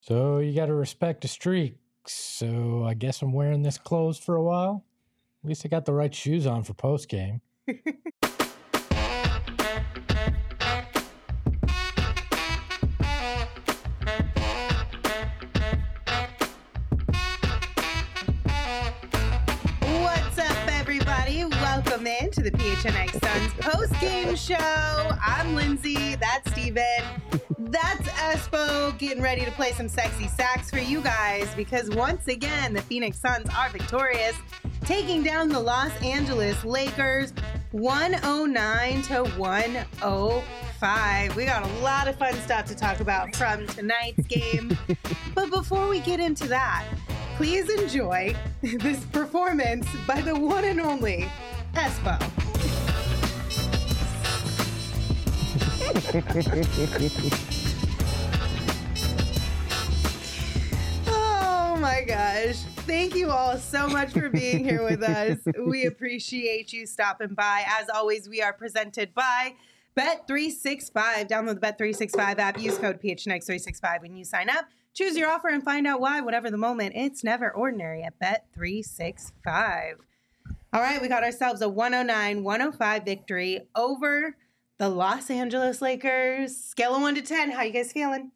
So you got to respect the streak. So I guess I'm wearing this clothes for a while. At least I got the right shoes on for post game. What's up, everybody? Welcome in to the PHNX Suns post-game show. I'm Lindsay. That's Steven. That's Espo getting ready to play some sexy sax for you guys because once again, the Phoenix Suns are victorious, taking down the Los Angeles Lakers 109 to 105. We got a lot of fun stuff to talk about from tonight's game. But before we get into that, please enjoy this performance by the one and only Espo. Oh my gosh. Thank you all so much for being here with us. We appreciate you stopping by. As always, we are presented by Bet365. Download the Bet365 app. Use code PHNX365 when you sign up. Choose your offer and find out why. Whatever the moment, it's never ordinary at Bet365. All right, we got ourselves a 109-105 victory over the Los Angeles Lakers. Scale of 1 to 10. How you guys feeling?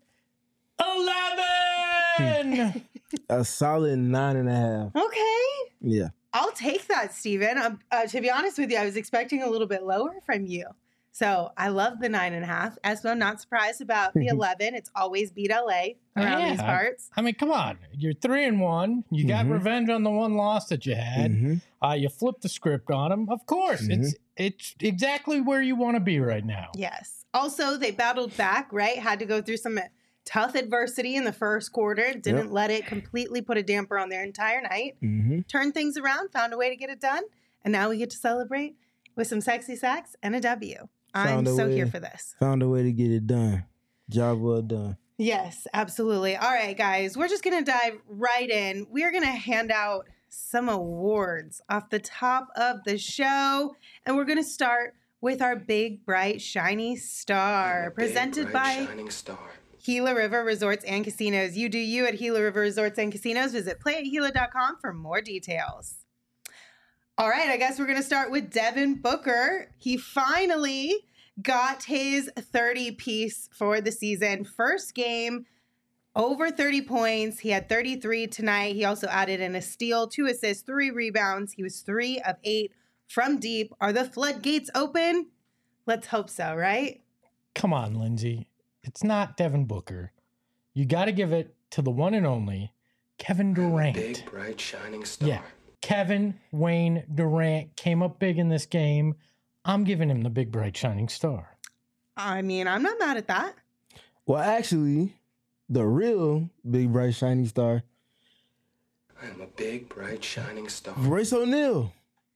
11! A solid 9.5. Okay. Yeah. I'll take that, Steven. To be honest with you, I was expecting a little bit lower from you. So I love the 9.5. Espo, not surprised about the 11. It's always beat LA around these parts. I mean, come on. You're 3-1. You got revenge on the one loss that you had. You flipped the script on them. Of course. It's exactly where you want to be right now. Yes. Also, they battled back, right? Had to go through some tough adversity in the first quarter. Didn't let it completely put a damper on their entire night. Turned things around, found a way to get it done. And now we get to celebrate with some sexy sax and a W. I'm so here for this. Found a way to get it done. Job well done. Yes, absolutely. All right, guys, we're just going to dive right in. We're going to hand out some awards off the top of the show. And we're going to start with our big, bright, shiny star presented by Gila River Resorts and Casinos. You do you at Gila River Resorts and Casinos. Visit playatgila.com for more details. All right, I guess we're going to start with Devin Booker. He finally got his 30-piece for the season. First game, over 30 points. He had 33 tonight. He also added in a steal, 2 assists, 3 rebounds. He was 3 of 8 from deep. Are the floodgates open? Let's hope so, right? Come on, Lindsay. It's not Devin Booker. You got to give it to the one and only Kevin Durant. Big, bright, shining star. Yeah. Kevin Wayne Durant came up big in this game. I'm giving him the big, bright, shining star. I mean, I'm not mad at that. Well, actually, the real big, bright, shining star, I am a big, bright, shining star. Royce O'Neal.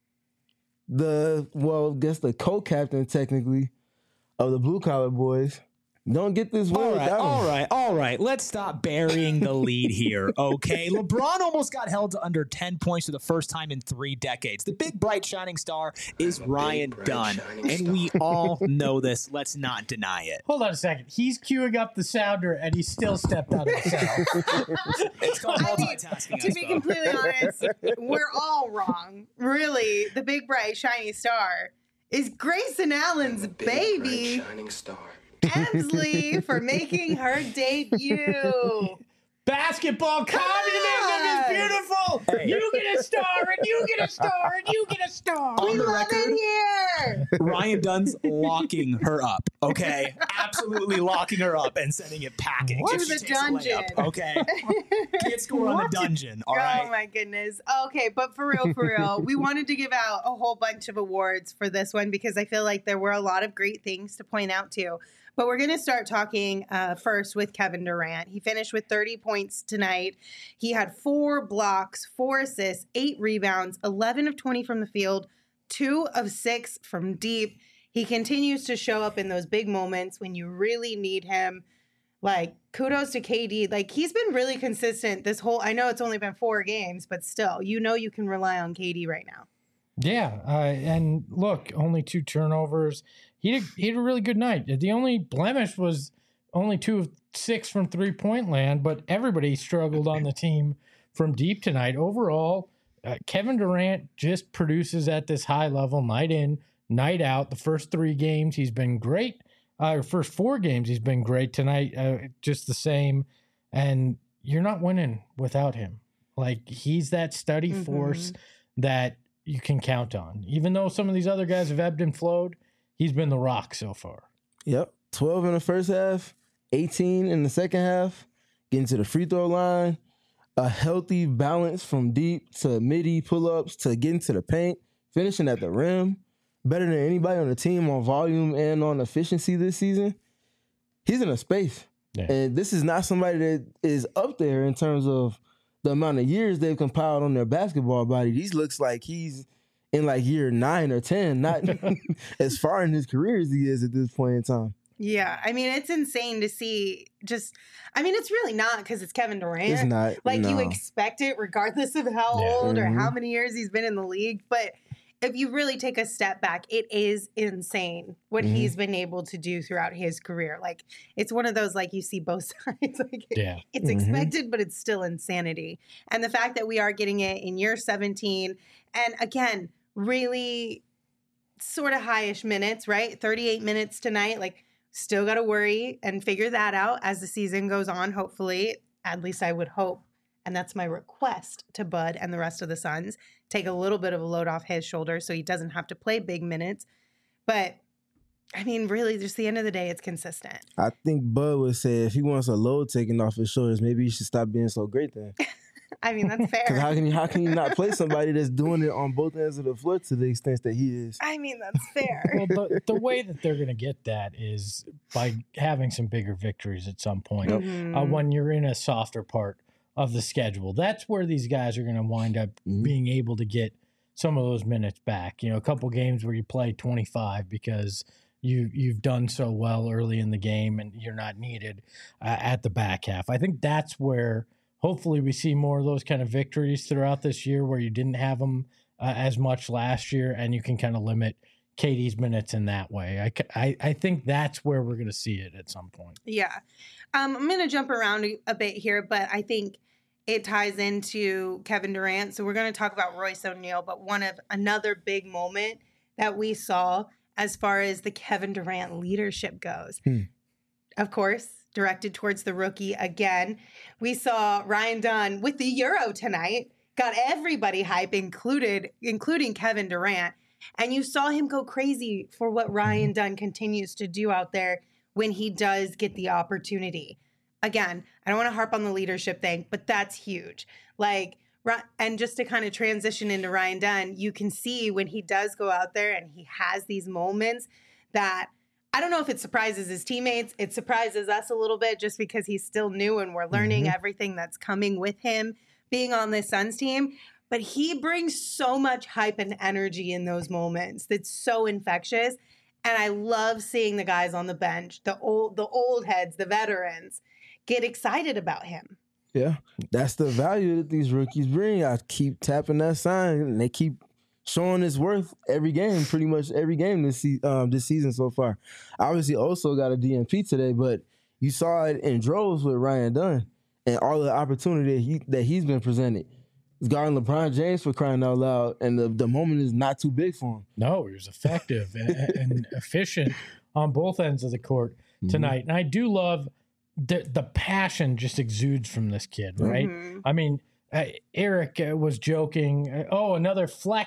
I guess the co-captain, technically, of the Blue Collar Boys. Don't get this win without him. All right. Let's stop burying the lead here, okay? LeBron almost got held to under 10 points for the first time in 3 decades. The big, bright, shining star is Ryan Dunn, and we all know this. Let's not deny it. Hold on a second. He's queuing up the sounder, and he still stepped out of the sound. It's called multitasking. To be completely honest, we're all wrong. Really, the big, bright, shiny star is Grayson Allen's baby. Bright, shining star. Emsley for making her debut. Basketball communism is beautiful. Hey. You get a star, and you get a star, and you get a star. On the love record, it here. Ryan Dunn's locking her up, okay? Absolutely locking her up and sending it packing. To the dungeon. Okay? Can't score on the dungeon, all right? Oh, my goodness. Okay, but for real, we wanted to give out a whole bunch of awards for this one because I feel like there were a lot of great things to point out, too. But we're going to start talking first with Kevin Durant. He finished with 30 points tonight. He had 4 blocks, 4 assists, 8 rebounds, 11 of 20 from the field, 2 of 6 from deep. He continues to show up in those big moments when you really need him. Like, kudos to KD. Like, he's been really consistent this whole, I know it's only been 4 games, but still, you know you can rely on KD right now. Yeah, and look, only 2 turnovers. He had a really good night. The only blemish was only 2 of 6 from 3-point land, but everybody struggled on the team from deep tonight. Overall, Kevin Durant just produces at this high level night in, night out. The first 3 games, he's been great. First 4 games, he's been great. Tonight, just the same. And you're not winning without him. Like, he's that steady force that you can count on. Even though some of these other guys have ebbed and flowed, he's been the rock so far. Yep. 12 in the first half, 18 in the second half, getting to the free throw line, a healthy balance from deep to midi pull-ups to getting to the paint, finishing at the rim, better than anybody on the team on volume and on efficiency this season. He's in a space. Yeah. And this is not somebody that is up there in terms of the amount of years they've compiled on their basketball body. He looks like he's in like year 9 or 10, not as far in his career as he is at this point in time. Yeah, I mean, it's insane to see it's really not because it's Kevin Durant. It's not. Like, you expect it regardless of how old or how many years he's been in the league. But if you really take a step back, it is insane what he's been able to do throughout his career. Like, it's one of those, like, you see both sides. Like, it's expected, but it's still insanity. And the fact that we are getting it in year 17, and again, really sort of high-ish minutes, right? 38 minutes tonight, like, still got to worry and figure that out as the season goes on, hopefully. At least I would hope. And that's my request to Bud and the rest of the Suns. Take a little bit of a load off his shoulders so he doesn't have to play big minutes. But, I mean, really, just the end of the day, it's consistent. I think Bud would say if he wants a load taken off his shoulders, maybe he should stop being so great then. I mean, that's fair. Because how can you not play somebody that's doing it on both ends of the floor to the extent that he is? I mean, that's fair. Well, the way that they're going to get that is by having some bigger victories at some point. When you're in a softer part of the schedule, that's where these guys are going to wind up being able to get some of those minutes back. You know, a couple games where you play 25 because you've done so well early in the game and you're not needed at the back half. I think that's where hopefully we see more of those kind of victories throughout this year where you didn't have them as much last year, and you can kind of limit KD's minutes in that way. I think that's where we're going to see it at some point. Yeah. I'm going to jump around a bit here, but I think it ties into Kevin Durant. So we're going to talk about Royce O'Neal, but another big moment that we saw as far as the Kevin Durant leadership goes. Of course, directed towards the rookie again. We saw Ryan Dunn with the Euro tonight, got everybody hype, including Kevin Durant. And you saw him go crazy for what Ryan Dunn continues to do out there when he does get the opportunity. Again, I don't want to harp on the leadership thing, but that's huge. Like, and just to kind of transition into Ryan Dunn, you can see when he does go out there and he has these moments that I don't know if it surprises his teammates. It surprises us a little bit just because he's still new and we're learning everything that's coming with him being on this Suns team. But he brings so much hype and energy in those moments that's so infectious. And I love seeing the guys on the bench, the old heads, the veterans, get excited about him. Yeah, that's the value that these rookies bring. I keep tapping that sign, and they keep showing its worth every game, pretty much every game this season so far. Obviously, also got a DNP today, but you saw it in droves with Ryan Dunn and all the opportunity that he's been presented. He's guarding LeBron James for crying out loud, and the moment is not too big for him. No, he was effective and efficient on both ends of the court tonight. And I do love the passion just exudes from this kid, right? I mean, Eric was joking, another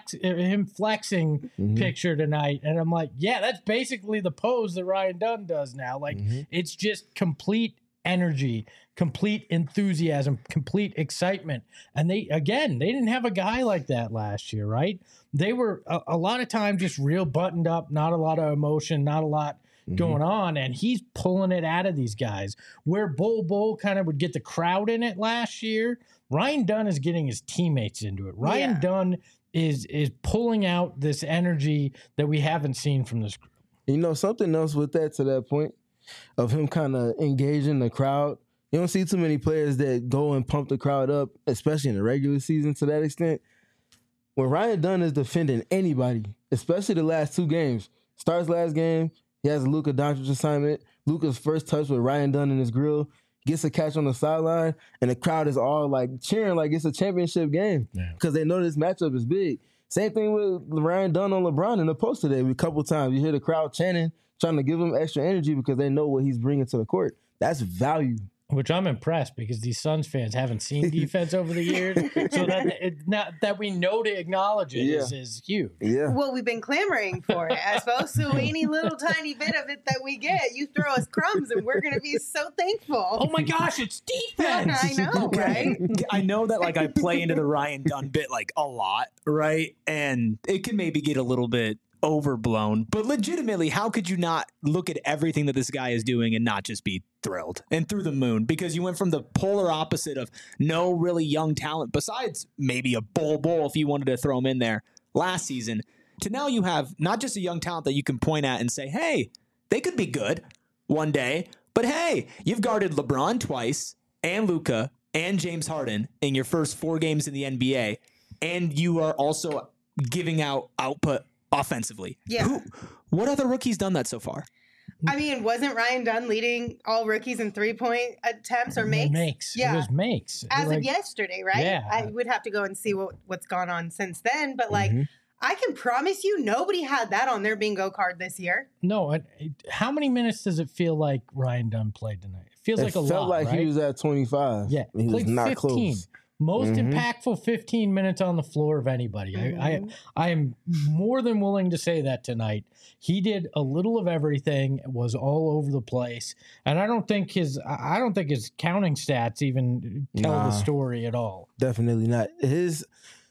him flexing picture tonight. And I'm like, yeah, that's basically the pose that Ryan Dunn does now. Like, it's just complete energy, complete enthusiasm, complete excitement. And they didn't have a guy like that last year, right? They were a lot of times just real buttoned up, not a lot of emotion, not a lot going on, and he's pulling it out of these guys. Where Bol kind of would get the crowd in it last year, Ryan Dunn is getting his teammates into it. Ryan Dunn is pulling out this energy that we haven't seen from this group. You know, something else with that, to that point of him kind of engaging the crowd, you don't see too many players that go and pump the crowd up, especially in the regular season to that extent. When Ryan Dunn is defending anybody, especially the last 2 games, starts last game, He has a Luka Doncic assignment. Luka's first touch with Ryan Dunn in his grill. Gets a catch on the sideline, and the crowd is all like cheering like it's a championship game because they know this matchup is big. Same thing with Ryan Dunn on LeBron in the post today. A couple times you hear the crowd chanting, trying to give him extra energy because they know what he's bringing to the court. That's value. Which I'm impressed because these Suns fans haven't seen defense over the years, so that we know to acknowledge it is huge. Yeah. Well, we've been clamoring for it, I suppose. So any little tiny bit of it that we get, you throw us crumbs, and we're going to be so thankful. Oh my gosh, it's defense! I know, right? I know that like I play into the Ryan Dunn bit like a lot, right? And it can maybe get a little bit overblown, but legitimately, how could you not look at everything that this guy is doing and not just be thrilled and through the moon? Because you went from the polar opposite of no really young talent, besides maybe a Bol if you wanted to throw him in there last season, to now you have not just a young talent that you can point at and say, hey, they could be good one day, but hey, you've guarded LeBron twice and Luka and James Harden in your first 4 games in the NBA, and you are also giving out output offensively. Yeah. What other rookie's done that so far? I mean, wasn't Ryan Dunn leading all rookies in 3-point attempts or makes? Makes. Yeah. It was makes. As of yesterday, right? Yeah. I would have to go and see what's gone on since then. But like, I can promise you nobody had that on their bingo card this year. No, how many minutes does it feel like Ryan Dunn played tonight? It feels like a lot, felt like right? he was at 25. Yeah, he was played not 15. close. Most impactful 15 minutes on the floor of anybody. I am more than willing to say that tonight. He did a little of everything, was all over the place, and I don't think his counting stats even tell the story at all. Definitely not. His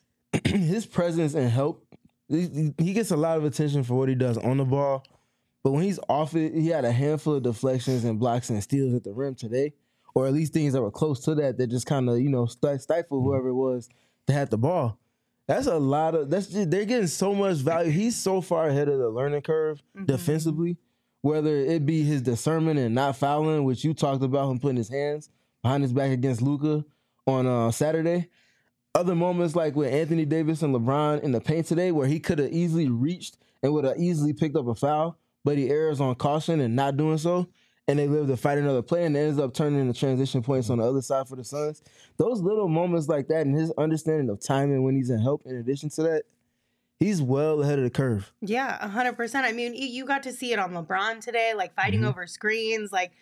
presence and help, he gets a lot of attention for what he does on the ball, but when he's off it, he had a handful of deflections and blocks and steals at the rim today. Or at least things that were close to that just kind of, stifle whoever it was that had the ball. That's a lot of, they're getting so much value. He's so far ahead of the learning curve defensively, whether it be his discernment and not fouling, which you talked about him putting his hands behind his back against Luka on Saturday. Other moments like with Anthony Davis and LeBron in the paint today where he could have easily reached and would have easily picked up a foul, but he errs on caution and not doing so. And they live to fight another play, and it ends up turning into transition points on the other side for the Suns. Those little moments like that and his understanding of timing when he's in help, in addition to that, he's well ahead of the curve. Yeah, 100%. I mean, you got to see it on LeBron today, like fighting over screens. Like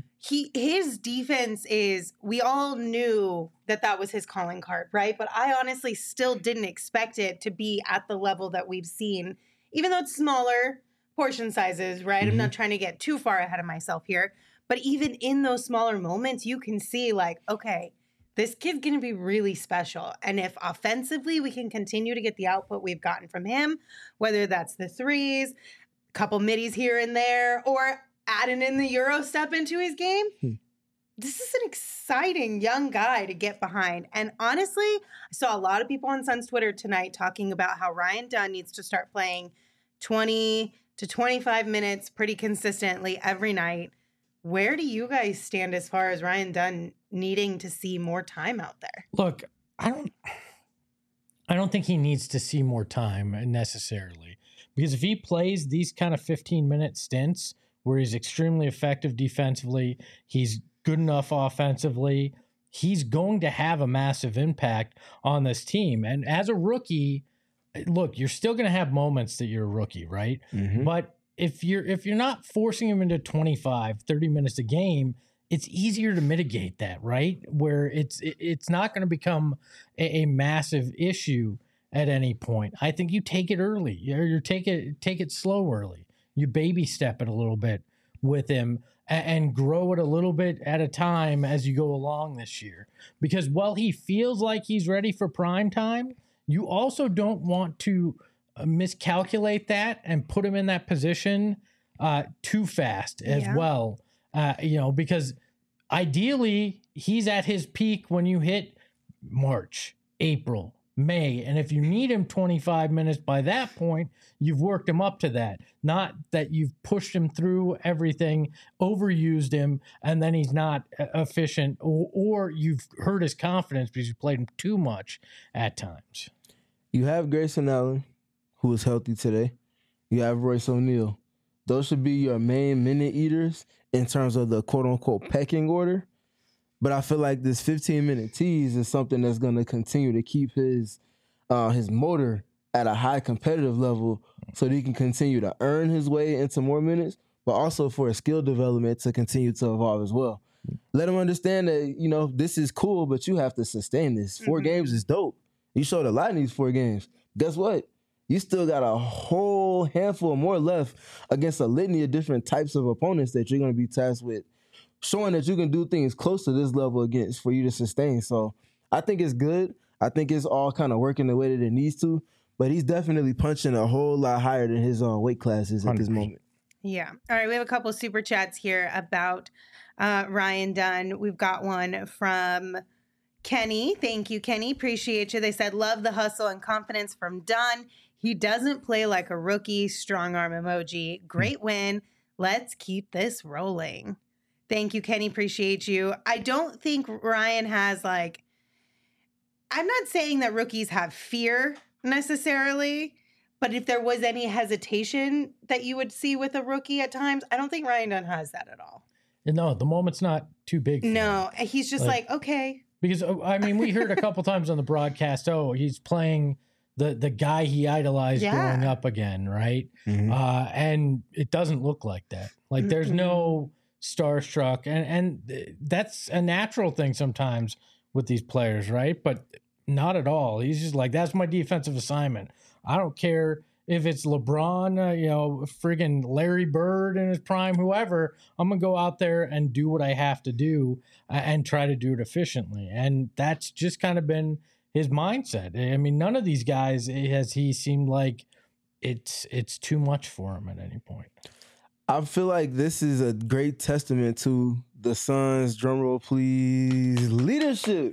his defense is, we all knew that was his calling card, right? But I honestly still didn't expect it to be at the level that we've seen, even though it's smaller portion sizes, right? I'm not trying to get too far ahead of myself here, but even in those smaller moments, you can see like, okay, this kid's going to be really special. And if offensively we can continue to get the output we've gotten from him, whether that's the threes, a couple middies here and there, or adding in the Euro step into his game, this is an exciting young guy to get behind. And honestly, I saw a lot of people on Suns Twitter tonight talking about how Ryan Dunn needs to start playing 20 to 25 minutes pretty consistently every night. Where do you guys stand as far as Ryan Dunn needing to see more time out there? Look, I don't think he needs to see more time necessarily, because if he plays these kind of 15-minute stints where he's extremely effective defensively, he's good enough offensively, he's going to have a massive impact on this team. And as a rookie, look, you're still going to have moments that you're a rookie, right? But if you're not forcing him into 25, 30 minutes a game, it's easier to mitigate that, right? Where it's not going to become a massive issue at any point. I think you take it early. You take it slow early. You baby step it a little bit with him and grow it a little bit at a time as you go along this year. Because while he feels like he's ready for prime time, you also don't want to miscalculate that and put him in that position too fast as well. Because ideally he's at his peak when you hit March, April, May. And if you need him 25 minutes by that point, you've worked him up to that. Not that you've pushed him through everything, overused him, and then he's not efficient, or you've hurt his confidence because you played him too much at times. You have Grayson Allen, who is healthy today. You have Royce O'Neal. Those should be your main minute eaters in terms of the quote-unquote pecking order. But I feel like this 15-minute tease is something that's going to continue to keep his motor at a high competitive level so that he can continue to earn his way into more minutes, but also for his skill development to continue to evolve as well. Let him understand that, this is cool, but you have to sustain this. 4 games is dope. You showed a lot in these 4 games. Guess what? You still got a whole handful more left against a litany of different types of opponents that you're going to be tasked with, showing that you can do things close to this level against for you to sustain. So I think it's good. I think it's all kind of working the way that it needs to, but he's definitely punching a whole lot higher than his weight classes at this moment. Yeah. All right. We have a couple super chats here about Ryan Dunn. We've got one from Kenny. Thank you, Kenny. Appreciate you. They said, love the hustle and confidence from Dunn. He doesn't play like a rookie. Strong arm emoji. Great win. Let's keep this rolling. Thank you, Kenny. Appreciate you. I don't think Ryan has I'm not saying that rookies have fear necessarily, but if there was any hesitation that you would see with a rookie at times, I don't think Ryan Dunn has that at all. No, the moment's not too big. No, he's just okay. Because, we heard a couple times on the broadcast, he's playing the guy he idolized growing up again, right? Mm-hmm. And it doesn't look like that. There's no starstruck, and that's a natural thing sometimes with these players, right? But not at all. He's just that's my defensive assignment. I don't care if it's LeBron, friggin' Larry Bird in his prime, whoever. I'm going to go out there and do what I have to do and try to do it efficiently. And that's just kind of been his mindset. I mean, none of these guys has he seemed like it's too much for him at any point. I feel like this is a great testament to the Suns, drumroll please, leadership.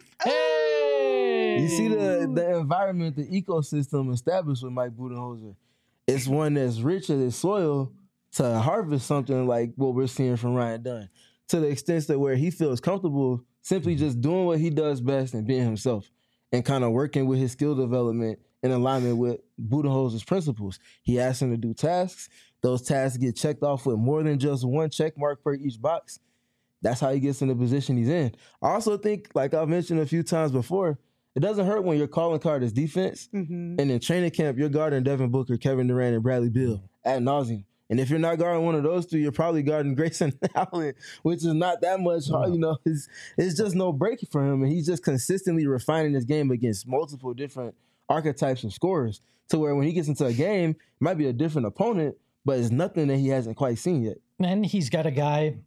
Hey! You see the environment, the ecosystem established with Mike Budenholzer. It's one that's rich in its soil to harvest something like what we're seeing from Ryan Dunn, to the extent that where he feels comfortable simply just doing what he does best and being himself and kind of working with his skill development in alignment with Budenholzer's principles. He asks him to do tasks. Those tasks get checked off with more than just one check mark per each box. That's how he gets in the position he's in. I also think, like I've mentioned a few times before, it doesn't hurt when your calling card is defense. Mm-hmm. And in training camp, you're guarding Devin Booker, Kevin Durant, and Bradley Beal ad nauseum. And if you're not guarding one of those 3, you're probably guarding Grayson Allen, which is not that much hard. It's just no break for him. And he's just consistently refining his game against multiple different archetypes of scorers to where when he gets into a game, it might be a different opponent, but it's nothing that he hasn't quite seen yet. And he's got a guy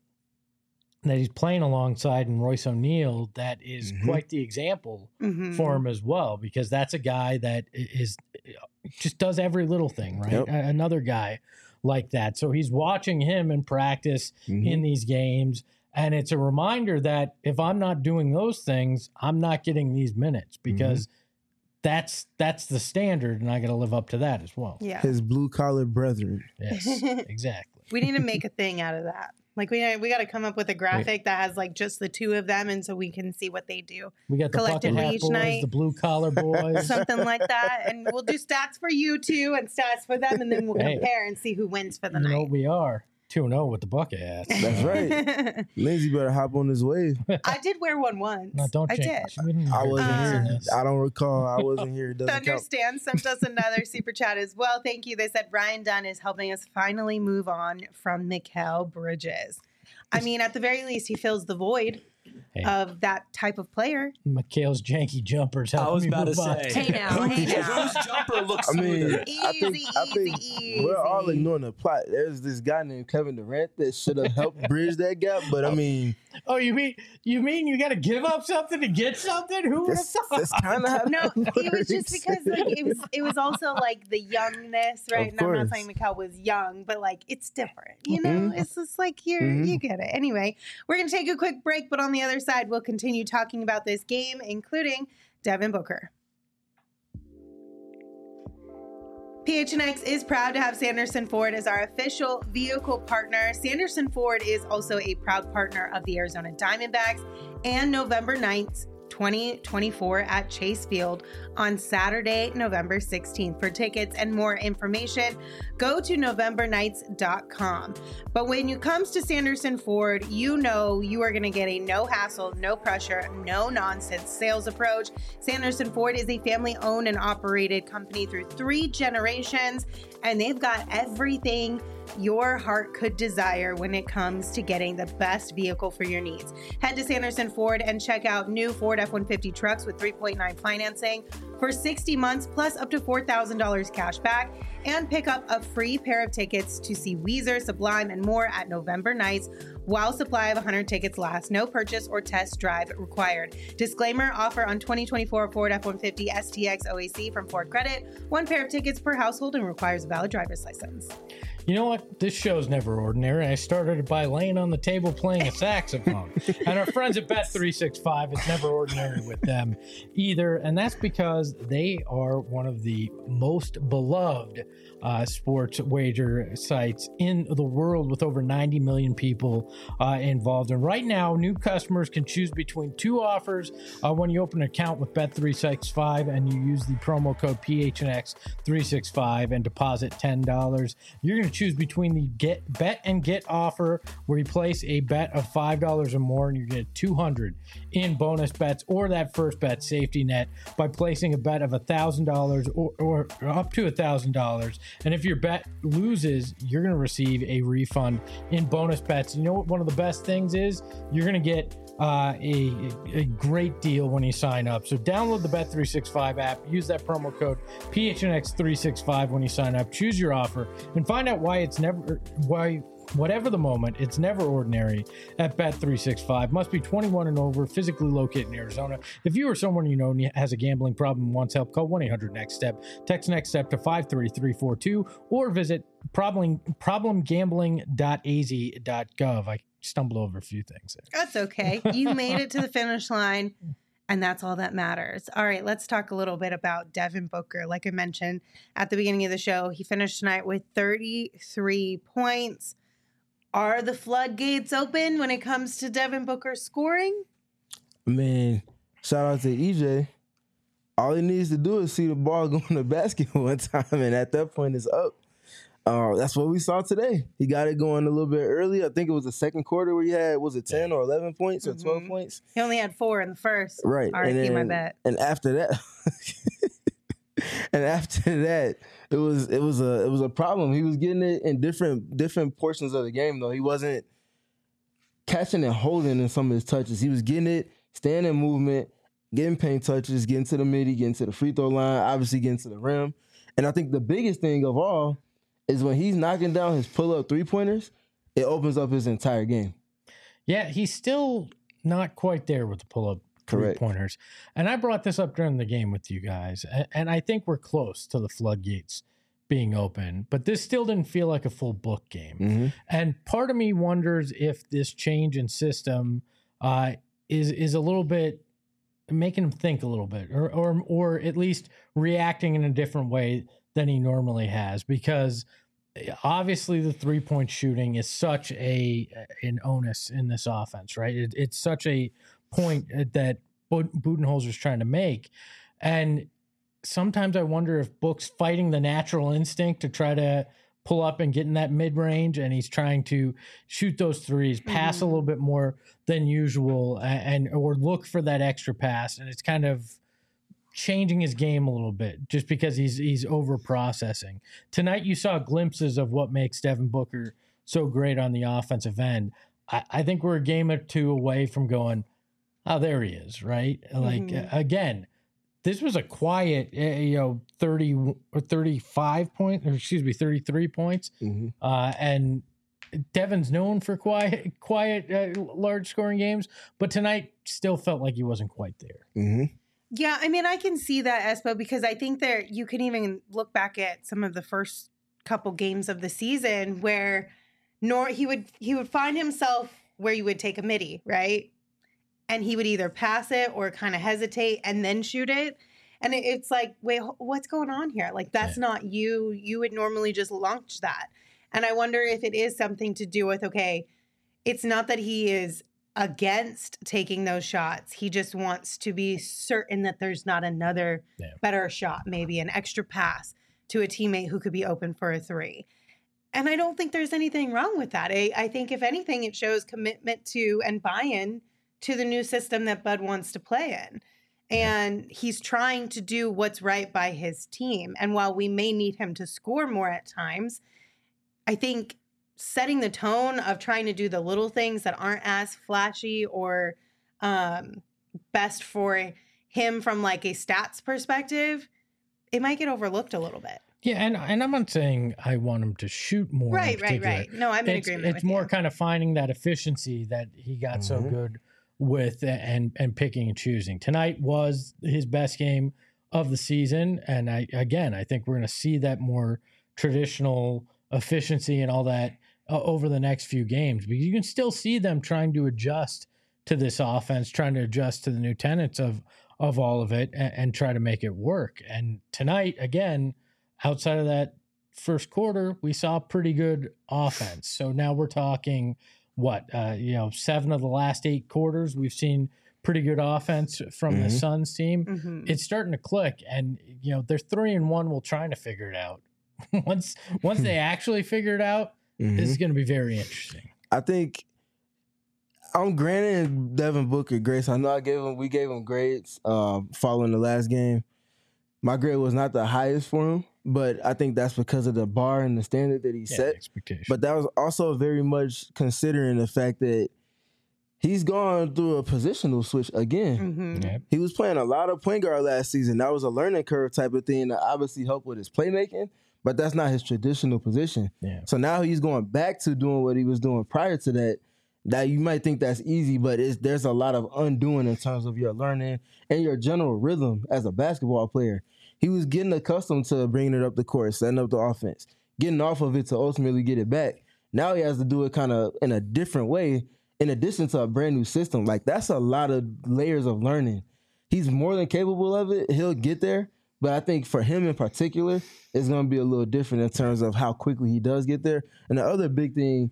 that he's playing alongside in Royce O'Neal that is quite the example for him as well, because that's a guy that is just does every little thing, right? Yep. Another guy like that. So he's watching him in practice in these games, and it's a reminder that if I'm not doing those things, I'm not getting these minutes because that's the standard, and I got to live up to that as well. Yeah, his blue collar brethren. Yes, exactly. We need to make a thing out of that. We got to come up with a graphic that has just the 2 of them, and so we can see what they do. We got the bucket hat boys, the blue collar boys, something like that, and we'll do stats for you 2 and stats for them, and then we'll compare and see who wins for the night. We are 2-0 with the bucket hats. That's right. Lindsay better hop on this wave. I did wear one once. No, don't change. I did. I wasn't here. I don't recall. I wasn't here. Thunderstan sent us another super chat as well. Thank you. They said Ryan Dunn is helping us finally move on from Mikal Bridges. I mean, at the very least, he fills the void of that type of player. Mikal's janky jumpers. I was about to say. Hey now. Whose jumper looks smoother? I think we're all ignoring the plot. There's this guy named Kevin Durant that should have helped bridge that gap, but I mean. Oh, you mean you got to give up something to get something? Who would have thought? That's kind of how it was just because it was also the youngness, right? And I'm not saying Mikal was young, but it's different, you know. It's just you get it. Anyway, we're gonna take a quick break, but on the other side, we'll continue talking about this game, including Devin Booker. PHNX is proud to have Sanderson Ford as our official vehicle partner. Sanderson Ford is also a proud partner of the Arizona Diamondbacks and November 9th, 2024 at Chase Field on Saturday, November 16th. For tickets and more information, go to novembernights.com. But when it comes to Sanderson Ford, you know you are going to get a no hassle, no pressure, no nonsense sales approach. Sanderson Ford is a family-owned and operated company through 3 generations, and they've got everything your heart could desire when it comes to getting the best vehicle for your needs. Head to Sanderson Ford and check out new Ford F-150 trucks with 3.9 financing for 60 months plus up to $4,000 cash back, and pick up a free pair of tickets to see Weezer, Sublime, and more at November Nights while supply of 100 tickets lasts. No purchase or test drive required. Disclaimer, offer on 2024 Ford F-150 STX OAC from Ford Credit. 1 pair of tickets per household and requires a valid driver's license. You know what? This show's never ordinary. I started by laying on the table playing a saxophone. And our friends at Bet365, it's never ordinary with them either. And that's because they are one of the most beloved sports wager sites in the world, with over 90 million people involved. And right now, new customers can choose between 2 offers when you open an account with Bet365 and you use the promo code PHNX365 and deposit $10. You're going to choose between the bet and get offer, where you place a bet of $5 or more and you get 200 in bonus bets, or that first bet safety net by placing a bet of $1,000 or up to $1,000. And if your bet loses, you're going to receive a refund in bonus bets. You know what one of the best things is? You're going to get a great deal when you sign up. So download the Bet365 app, use that promo code PHNX365 when you sign up, choose your offer, and find out why whatever the moment, it's never ordinary at Bet365. Must be 21 and over, physically located in Arizona. If you or someone you know has a gambling problem and wants help, call 1-800-NEXT-STEP. Text NEXT STEP to 53342 or visit problemgambling.az.gov. I stumbled over a few things there. That's okay. You made it to the finish line, and that's all that matters. All right, let's talk a little bit about Devin Booker. Like I mentioned at the beginning of the show, he finished tonight with 33 points. Are the floodgates open when it comes to Devin Booker scoring? I mean, shout out to EJ. All he needs to do is see the ball go in the basket one time, and at that point, it's up. That's what we saw today. He got it going a little bit early. I think it was the second quarter where he had, was it 10 or 11 points or 12 points? He only had 4 in the first. Right. RIP, my bet. And after that, it was a problem. He was getting it in different portions of the game, though. He wasn't catching and holding in some of his touches. He was getting it, staying in movement, getting paint touches, getting to the midi, getting to the free throw line, obviously getting to the rim. And I think the biggest thing of all is when he's knocking down his pull-up three-pointers, it opens up his entire game. Yeah, he's still not quite there with the pull-up three-pointers. And I brought this up during the game with you guys, and I think we're close to the floodgates being open, but this still didn't feel like a full book game. Mm-hmm. And part of me wonders if this change in system is a little bit making him think a little bit, or at least reacting in a different way than he normally has, because obviously the 3-point shooting is such an onus in this offense, right? It's such a point that Budenholzer's trying to make. And sometimes I wonder if Book's fighting the natural instinct to try to pull up and get in that mid-range, and he's trying to shoot those threes, pass a little bit more than usual, or look for that extra pass, and it's kind of changing his game a little bit just because he's over processing. Tonight you saw glimpses of what makes Devin Booker so great on the offensive end. I think we're a game or two away from going, oh, there he is, right? Like, again, this was a quiet, 30 or 35 points, or excuse me, 33 points. And Devin's known for quiet, large scoring games, but tonight still felt like he wasn't quite there. Yeah, I mean, I can see that, Espo, because I think you can even look back at some of the first couple games of the season where he would find himself where you would take a midi, right? And he would either pass it or kind of hesitate and then shoot it. And it's like, wait, what's going on here? Like, that's not you. You would normally just launch that. And I wonder if it is something to do with, okay, it's not that he is against taking those shots. He just wants to be certain that there's not another better shot, maybe an extra pass to a teammate who could be open for a three. And I don't think there's anything wrong with that. I think if anything, it shows commitment to and buy-in to the new system that Bud wants to play in. And he's trying to do what's right by his team. And while we may need him to score more at times, I think setting the tone of trying to do the little things that aren't as flashy or best for him from like a stats perspective, it might get overlooked a little bit. Yeah, and I'm not saying I want him to shoot more. Right. No, I'm in agreement it's with more you. kind of finding that efficiency that he got so good with and picking and choosing. Tonight was his best game of the season, and I think we're going to see that more traditional efficiency and all that over the next few games. But you can still see them trying to adjust to this offense, trying to adjust to the new tenets of all of it and try to make it work. And tonight, again, outside of that first quarter, we saw pretty good offense. So now we're talking 7 of the last 8 quarters, we've seen pretty good offense from the Suns team. It's starting to click, and they're 3-1. We're trying to figure it out. once they actually figure it out, this is going to be very interesting. I think I'm granting Devin Booker grace. I know we gave him grades following the last game. My grade was not the highest for him, but I think that's because of the bar and the standard that he set. Expectation. But that was also very much considering the fact that he's gone through a positional switch again. Yep. He was playing a lot of point guard last season. That was a learning curve type of thing that obviously helped with his playmaking, but that's not his traditional position. Yeah. So now he's going back to doing what he was doing prior to that. That you might think that's easy, but there's a lot of undoing in terms of your learning and your general rhythm as a basketball player. He was getting accustomed to bringing it up the court, setting up the offense, getting off of it to ultimately get it back. Now he has to do it kind of in a different way, in addition to a brand new system. Like, that's a lot of layers of learning. He's more than capable of it. He'll get there. But I think for him in particular, it's going to be a little different in terms of how quickly he does get there. And the other big thing,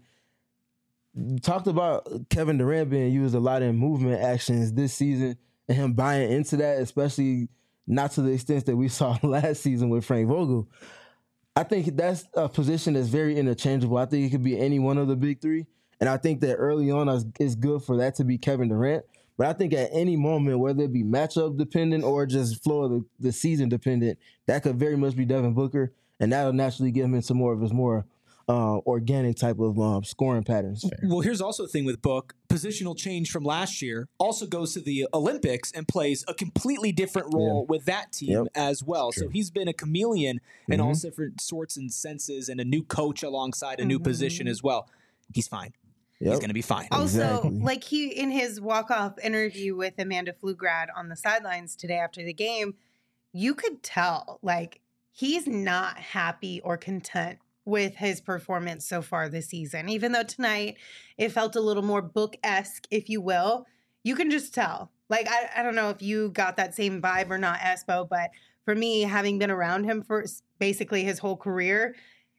talked about Kevin Durant being used a lot in movement actions this season and him buying into that, especially not to the extent that we saw last season with Frank Vogel. I think that's a position that's very interchangeable. I think it could be any one of the big three. And I think that early on it's good for that to be Kevin Durant. But I think at any moment, whether it be matchup dependent or just flow of the season dependent, that could very much be Devin Booker. And that'll naturally get him into more of his more organic type of scoring patterns. Well, here's also the thing with Book. Positional change from last year also goes to the Olympics and plays a completely different role with that team as well. So he's been a chameleon in all different sorts and senses, and a new coach alongside a new position as well. He's fine. He's going to be fine. Also, like he in his walk-off interview with Amanda Pflugrad on the sidelines today after the game, you could tell like he's not happy or content with his performance so far this season. Even though tonight it felt a little more Book-esque, if you will, you can just tell. Like, I don't know if you got that same vibe or not, Espo, but for me, having been around him for basically his whole career,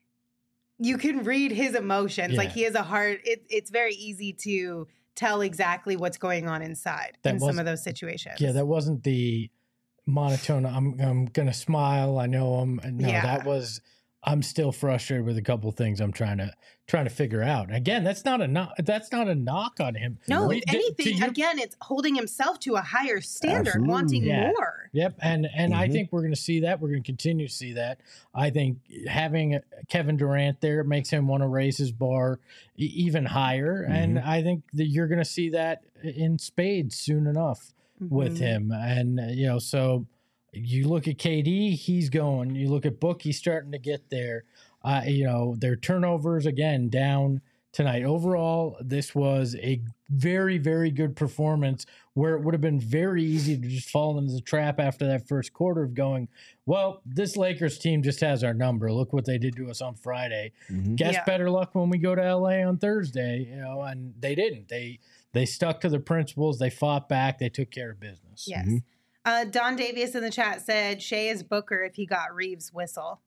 you can read his emotions. Like, he has a heart. It's very easy to tell exactly what's going on inside in some of those situations. Yeah, that wasn't the monotone, I'm going to smile, I know him. No, that was... I'm still frustrated with a couple of things I'm trying to figure out. Again, that's not a knock on him. No, if anything, again, it's holding himself to a higher standard, wanting more. Yep, and I think we're going to see that. We're going to continue to see that. I think having Kevin Durant there makes him want to raise his bar even higher, and I think that you're going to see that in spades soon enough with him. And so. You look at KD, he's going. You look at Book, he's starting to get there. Their turnovers, again, down tonight. Overall, this was a very, very good performance where it would have been very easy to just fall into the trap after that first quarter of going, well, this Lakers team just has our number. Look what they did to us on Friday. Guess better luck when we go to LA on Thursday, and they didn't. They stuck to the principles. They fought back. They took care of business. Yes. Don Davies in the chat said Shea is Booker if he got Reeves' whistle.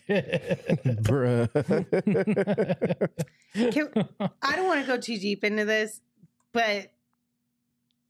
Bruh. I don't want to go too deep into this, but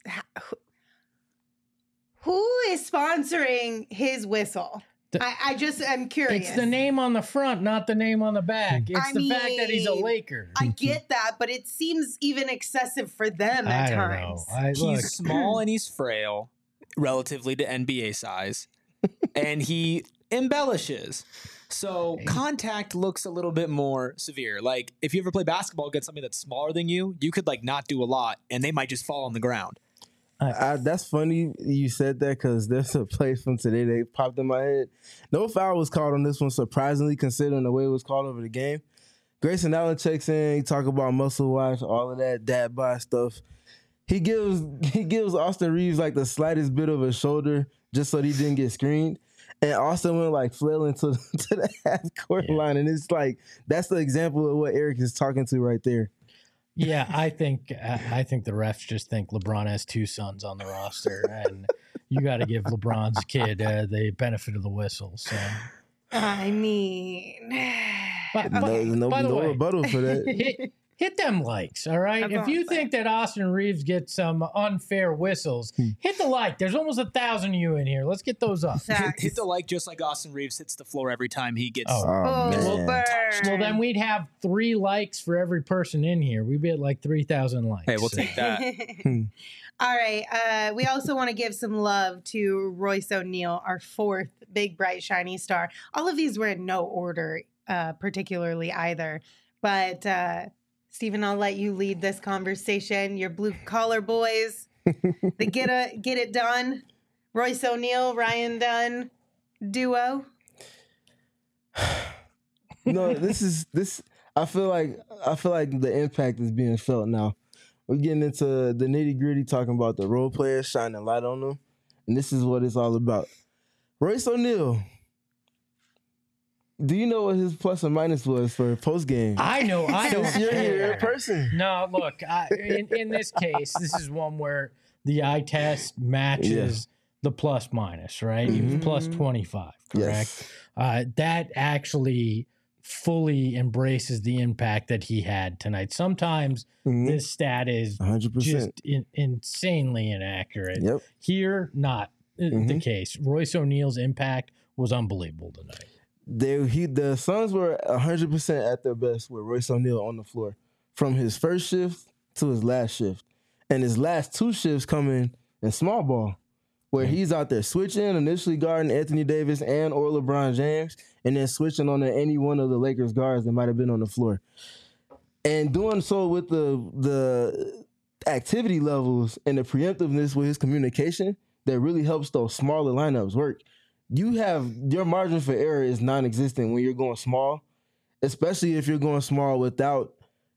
who is sponsoring his whistle? I just am curious. It's the name on the front, not the name on the back. It's I the fact that he's a mean, Laker. I get that, but it seems even excessive for them at times. He's small and he's frail, relatively to NBA size, and he embellishes. So contact looks a little bit more severe. Like if you ever play basketball against somebody that's smaller than you could like not do a lot, and they might just fall on the ground. That's funny you said that because there's a play from today that popped in my head. No foul was called on this one, surprisingly, considering the way it was called over the game. Grayson Allen checks in. He talk about muscle watch, all of that dad bod stuff. He gives Austin Reeves like the slightest bit of a shoulder just so he didn't get screened. And Austin went like flailing to the half court line. And it's like, that's the example of what Eric is talking to right there. Yeah, I think the refs just think LeBron has two sons on the roster, and you got to give LeBron's kid the benefit of the whistle. So, I mean, by the way, rebuttal for that. Hit them likes, all right? If you think that Austin Reeves gets some unfair whistles, hit the like. There's almost 1,000 of you in here. Let's get those up. Hit the like just like Austin Reeves hits the floor every time he gets. Well, then we'd have 3 likes for every person in here. We'd be at like 3,000 likes. Hey, we'll take that. All right. We also want to give some love to Royce O'Neal, our 4th big, bright, shiny star. All of these were in no order, particularly either. But Stephen, I'll let you lead this conversation. Your blue collar boys, the get it done. Royce O'Neal, Ryan Dunn duo. No, this. I feel like the impact is being felt now. We're getting into the nitty gritty, talking about the role players, shining light on them, and this is what it's all about. Royce O'Neal. Do you know what his plus or minus was for post game? I know. I don't. You're here in person. No, look. In this case, this is one where the eye test matches the plus minus. Right? He was plus 25. Correct. Yes. That actually fully embraces the impact that he had tonight. Sometimes this stat is 100%. Just insanely inaccurate. Yep. Here, not the case. Royce O'Neal's impact was unbelievable tonight. The Suns were 100% at their best with Royce O'Neal on the floor from his first shift to his last shift. And his last 2 shifts coming in small ball, where he's out there switching, initially guarding Anthony Davis and or LeBron James, and then switching on to any one of the Lakers guards that might have been on the floor. And doing so with the activity levels and the preemptiveness with his communication that really helps those smaller lineups work. Your margin for error is non-existent when you're going small, especially if you're going small without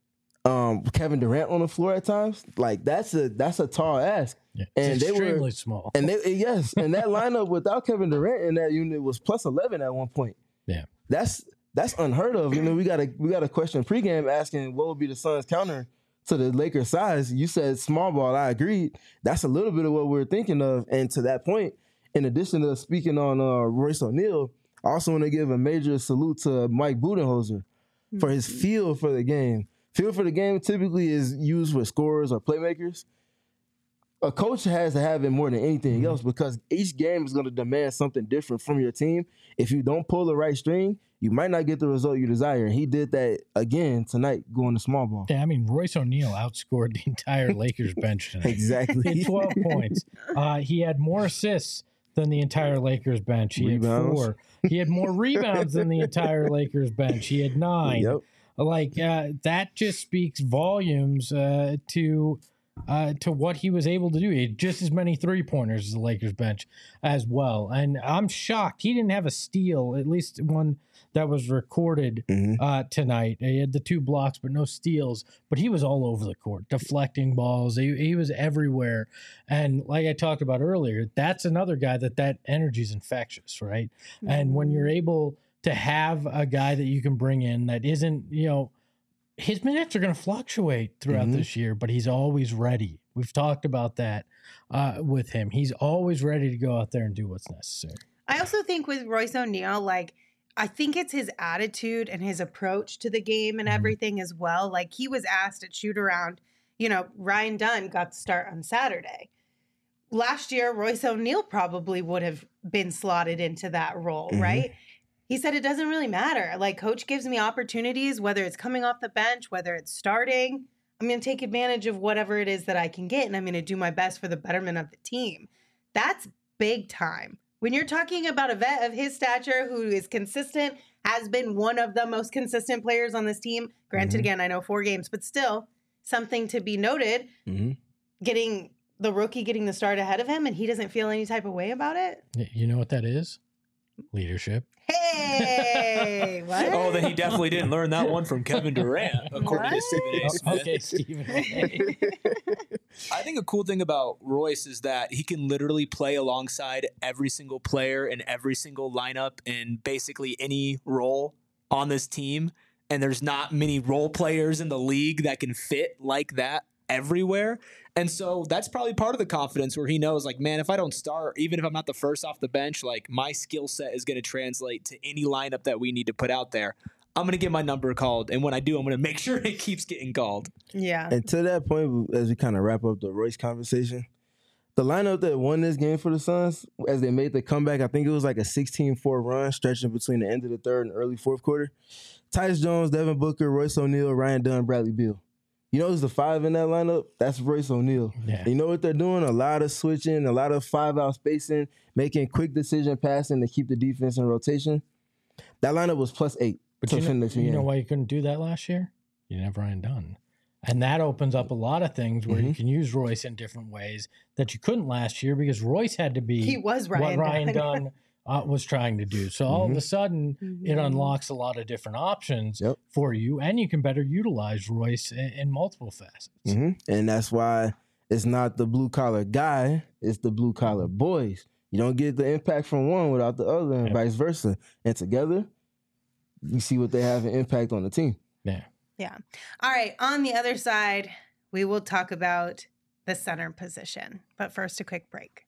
Kevin Durant on the floor at times. Like that's a tall ask. Yeah, and they were small. And and that lineup without Kevin Durant in that unit was plus 11 at one point. Yeah. That's unheard of. You know, we got a question pregame asking what would be the Suns' counter to the Lakers' size. You said small ball. I agreed. That's a little bit of what we're thinking of. And to that point, in addition to speaking on Royce O'Neal, I also want to give a major salute to Mike Budenholzer for his feel for the game. Feel for the game typically is used with scorers or playmakers. A coach has to have it more than anything else because each game is going to demand something different from your team. If you don't pull the right string, you might not get the result you desire. And he did that again tonight going to small ball. Yeah, I mean, Royce O'Neal outscored the entire Lakers bench tonight. Exactly. He had 12 points. He had more assists than the entire Lakers bench. He had 4. He had more rebounds than the entire Lakers bench. He had 9. Yep. That just speaks volumes to what he was able to do. He had just as many 3-pointers as the Lakers bench as well. And I'm shocked. He didn't have a steal, at least one that was recorded tonight. He had the 2 blocks, but no steals. But he was all over the court, deflecting balls. He was everywhere. And like I talked about earlier, that's another guy that energy is infectious, right? And when you're able to have a guy that you can bring in that isn't, his minutes are going to fluctuate throughout this year, but he's always ready. We've talked about that with him. He's always ready to go out there and do what's necessary. I also think with Royce O'Neal, I think it's his attitude and his approach to the game and everything as well. Like he was asked at shoot around, Ryan Dunn got to start on Saturday. last year, Royce O'Neal probably would have been slotted into that role, right? He said it doesn't really matter. Like, coach gives me opportunities, whether it's coming off the bench, whether it's starting. I'm going to take advantage of whatever it is that I can get, and I'm going to do my best for the betterment of the team. That's big time. When you're talking about a vet of his stature who is consistent, has been one of the most consistent players on this team. Granted, again, I know 4 games, but still something to be noted. Getting the rookie getting the start ahead of him, and he doesn't feel any type of way about it. You know what that is? Leadership. Hey, what? Oh, then he definitely didn't learn that one from Kevin Durant, according to Stephen A. Smith. Okay, Stephen A. I think a cool thing about Royce is that he can literally play alongside every single player in every single lineup in basically any role on this team. And there's not many role players in the league that can fit like that everywhere. And so that's probably part of the confidence where he knows, like, man, if I don't start, even if I'm not the first off the bench, like, my skill set is going to translate to any lineup that we need to put out there. I'm going to get my number called. And when I do, I'm going to make sure it keeps getting called. Yeah. And to that point, as we kind of wrap up the Royce conversation, the lineup that won this game for the Suns, as they made the comeback, I think it was like a 16-4 run stretching between the end of the third and early fourth quarter. Tyus Jones, Devin Booker, Royce O'Neal, Ryan Dunn, Bradley Beal. You know who's the 5 in that lineup? That's Royce O'Neal. Yeah. You know what they're doing? A lot of switching, a lot of 5-out spacing, making quick decision passing to keep the defense in rotation. That lineup was +8. But you know why you couldn't do that last year? You didn't have Ryan Dunn. And that opens up a lot of things where you can use Royce in different ways that you couldn't last year because Royce had to be He was what Ryan Ryan Dunn. Dunn was trying to do. So all of a sudden, it unlocks a lot of different options for you, and you can better utilize Royce in multiple facets. And that's why it's not the blue-collar guy, it's the blue-collar boys. You don't get the impact from one without the other and vice versa. And together, you see what they have an impact on the team. Yeah. All right. On the other side, we will talk about the center position. But first, a quick break.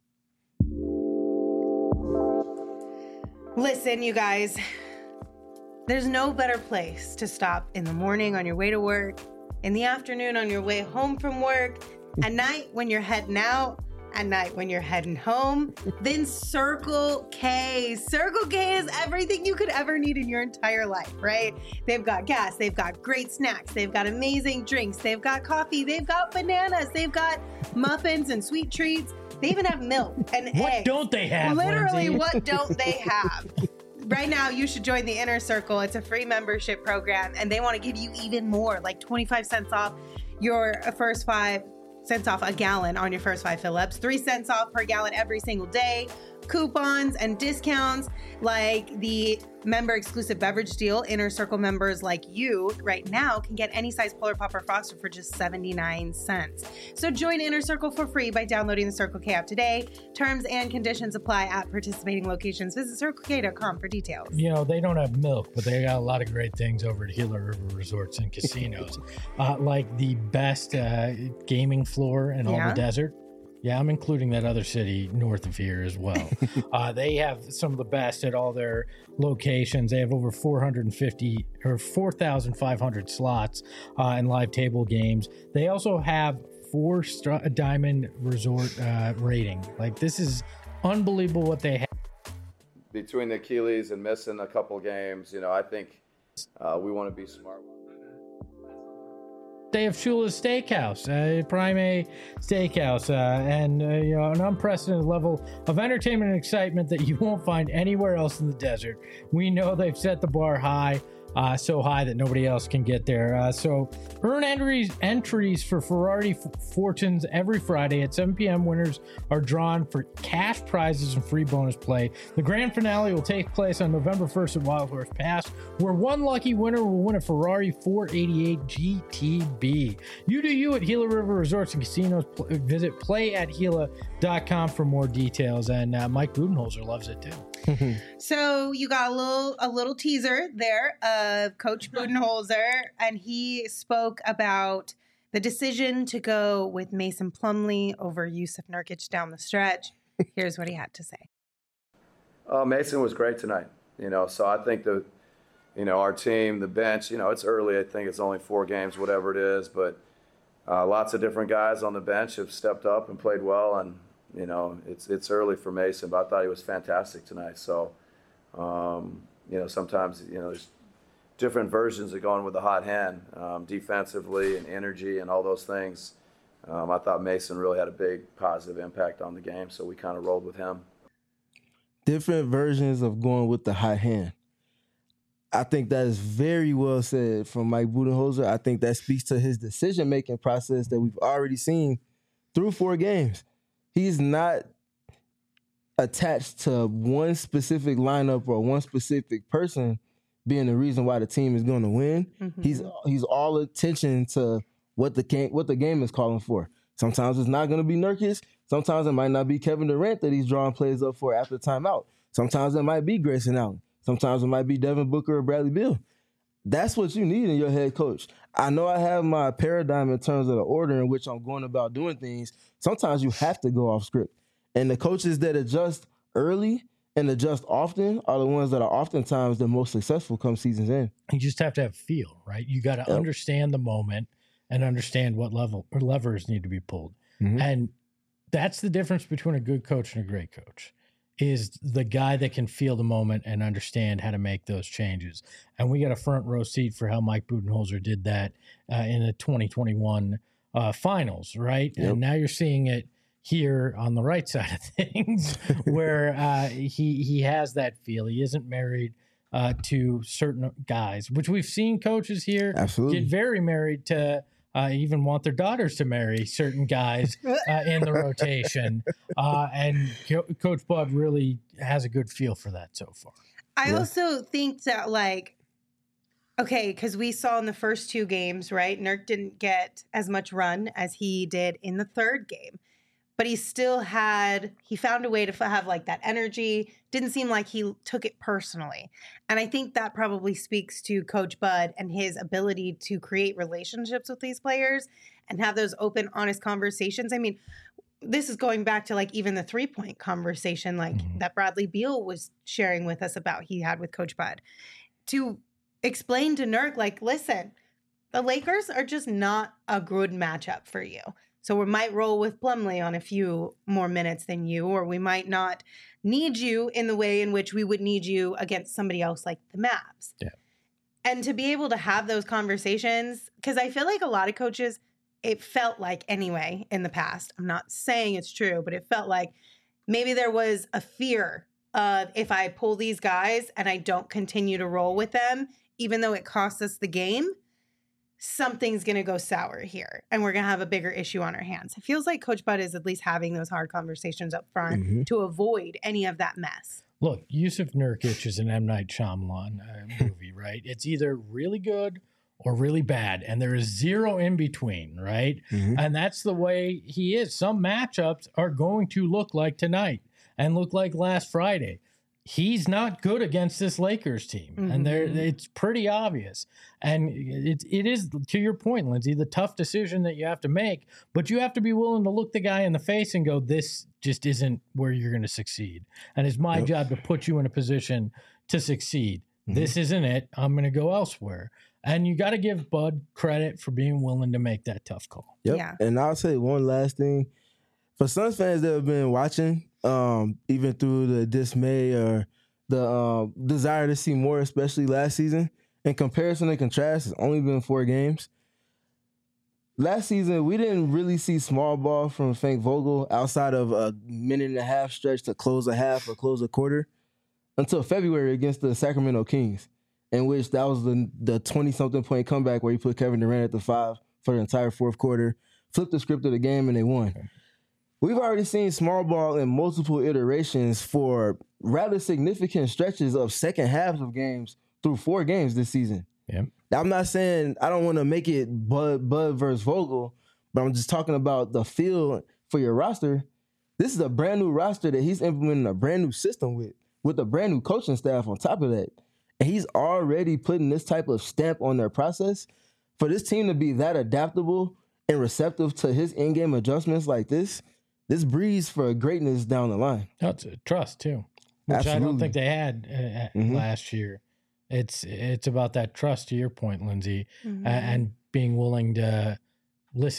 Listen, you guys, there's no better place to stop in the morning on your way to work, in the afternoon on your way home from work, at night when you're heading out, at night when you're heading home, then Circle K. Circle K is everything you could ever need in your entire life, right? They've got gas, they've got great snacks, they've got amazing drinks, they've got coffee, they've got bananas, they've got muffins and sweet treats. They even have milk and eggs. What don't they have, Literally, Lindsay? what don't they have? Right now, you should join the Inner Circle. It's a free membership program, and they want to give you even more, like 25 cents off your first 5 cents off a gallon on your first 5 fill-ups, 3 cents off per gallon every single day, coupons and discounts like the member exclusive beverage deal. Inner Circle members like you right now can get any size Polar Pop or Froster for just 79 cents. So join Inner Circle for free by downloading the Circle K app today. Terms and conditions apply at participating locations. Visit CircleK.com for details. You know, they don't have milk, but they got a lot of great things over at Gila River Resorts and Casinos, like the best gaming floor in all the desert. Yeah, I'm including that other city north of here as well. They have some of the best at all their locations. They have over 450 or 4,500 slots and live table games. They also have 4 diamond resort rating. Like, this is unbelievable what they have. Between the Achilles and missing a couple games, you know, I think we want to be smart. They have Shula's Steakhouse, Prime A Steakhouse, and you know, an unprecedented level of entertainment and excitement that you won't find anywhere else in the desert. We know they've set the bar high, so high that nobody else can get there. So earn entries for Ferrari Fortunes every Friday at 7 p.m. Winners are drawn for cash prizes and free bonus play. The grand finale will take place on November 1st at Wild Horse Pass, where one lucky winner will win a Ferrari 488 GTB. You do you at Gila River Resorts and Casinos. Visit playatgila.com for more details. And Mike Budenholzer loves it too. So you got a little teaser there of Coach Budenholzer, and he spoke about the decision to go with Mason Plumlee over Yusuf Nurkic down the stretch. Here's what he had to say. Mason was great tonight, you know, so I think our team, the bench, you know, it's early. I think it's only 4 games, whatever it is, but lots of different guys on the bench have stepped up and played well, and You know, it's early for Mason, but I thought he was fantastic tonight. So, you know, sometimes, you know, there's different versions of going with the hot hand, defensively and energy and all those things. I thought Mason really had a big positive impact on the game, so we kind of rolled with him. Different versions of going with the hot hand. I think that is very well said from Mike Budenholzer. I think that speaks to his decision-making process that we've already seen through 4 games. He's not attached to one specific lineup or one specific person being the reason why the team is going to win. Mm-hmm. He's all attention to what the game is calling for. Sometimes it's not going to be Nurkic. Sometimes it might not be Kevin Durant that he's drawing plays up for after timeout. Sometimes it might be Grayson Allen. Sometimes it might be Devin Booker or Bradley Beal. That's what you need in your head coach. I know I have my paradigm in terms of the order in which I'm going about doing things. Sometimes you have to go off script. And the coaches that adjust early and adjust often are the ones that are oftentimes the most successful come season's end. You just have to have feel, right? You got to understand the moment and understand what level or levers need to be pulled. Mm-hmm. And that's the difference between a good coach and a great coach, is the guy that can feel the moment and understand how to make those changes. And we got a front row seat for how Mike Budenholzer did that in the 2021 finals, right? Yep. And now you're seeing it here on the right side of things where he has that feel. He isn't married to certain guys, which we've seen coaches here get very married to, even want their daughters to marry certain guys in the rotation. And Coach Bud really has a good feel for that so far. I also think that, like, okay, because we saw in the first 2 games, right, Nurk didn't get as much run as he did in the 3rd game. But he found a way to have like that energy. Didn't seem like he took it personally. And I think that probably speaks to Coach Bud and his ability to create relationships with these players and have those open, honest conversations. I mean, this is going back to like even the 3-point conversation, like that Bradley Beal was sharing with us about he had with Coach Bud, to explain to Nurk, like, listen, the Lakers are just not a good matchup for you. So we might roll with Plumlee on a few more minutes than you, or we might not need you in the way in which we would need you against somebody else like the Mavs. Yeah. And to be able to have those conversations, because I feel like a lot of coaches, it felt like anyway in the past, I'm not saying it's true, but it felt like maybe there was a fear of, if I pull these guys and I don't continue to roll with them, even though it costs us the game, something's going to go sour here and we're going to have a bigger issue on our hands. It feels like Coach Bud is at least having those hard conversations up front to avoid any of that mess. Look, Yusuf Nurkic is an M. Night Shyamalan movie, right? It's either really good or really bad, and there is zero in between, right? And that's the way he is. Some matchups are going to look like tonight and look like last Friday. He's not good against this Lakers team, and it's pretty obvious. And it is, to your point, Lindsay, the tough decision that you have to make, but you have to be willing to look the guy in the face and go, this just isn't where you're going to succeed. And it's my job to put you in a position to succeed. This isn't it. I'm going to go elsewhere. And you got to give Bud credit for being willing to make that tough call. Yeah. And I'll say one last thing. For Suns fans that have been watching, even through the dismay or the desire to see more, especially last season, in comparison and contrast, it's only been 4 games. Last season, we didn't really see small ball from Frank Vogel outside of a 1.5-minute stretch to close a half or close a quarter until February against the Sacramento Kings, in which that was the 20-something point comeback where he put Kevin Durant at the 5 for the entire 4th quarter, flipped the script of the game, and they won. We've already seen small ball in multiple iterations for rather significant stretches of second halves of games through 4 games this season. Yeah. I'm not saying I don't want to make it Bud versus Vogel, but I'm just talking about the feel for your roster. This is a brand new roster that he's implementing a brand new system with a brand new coaching staff on top of that. And he's already putting this type of stamp on their process. For this team to be that adaptable and receptive to his in-game adjustments like this breeds for greatness down the line. That's trust too, which Absolutely. I don't think they had last year. It's about that trust, to your point, Lindsay, and being willing to listen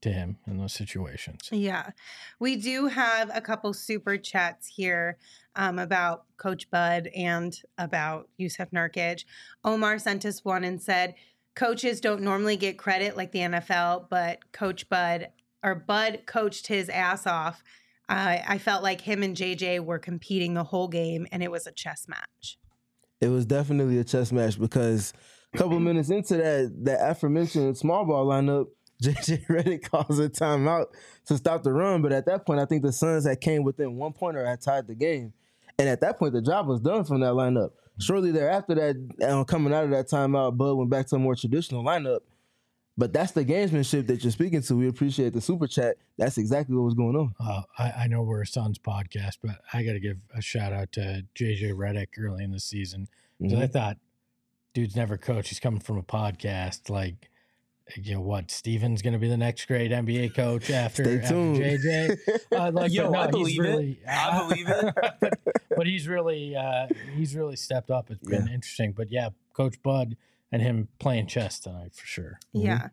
to him in those situations. Yeah. We do have a couple super chats here about Coach Bud and about Yusuf Nurkic. Omar sent us one and said, coaches don't normally get credit like the NFL, but Bud coached his ass off. I felt like him and JJ were competing the whole game, and it was a chess match. It was definitely a chess match because a couple of minutes into that aforementioned small ball lineup, JJ Redick calls a timeout to stop the run. But at that point, I think the Suns had came within 1 point or had tied the game. And at that point, the job was done from that lineup. Shortly thereafter, that coming out of that timeout, Bud went back to a more traditional lineup. But that's the gamesmanship that you're speaking to. We appreciate the super chat. That's exactly what was going on. I know we're a Suns podcast, but I got to give a shout out to JJ Redick early in the season. Because I thought, dude's never coached. He's coming from a podcast. Like, you know what? Steven's going to be the next great NBA coach after JJ. I believe it. But he's really stepped up. It's been interesting. But yeah, Coach Bud and him playing chess tonight for sure. Yeah.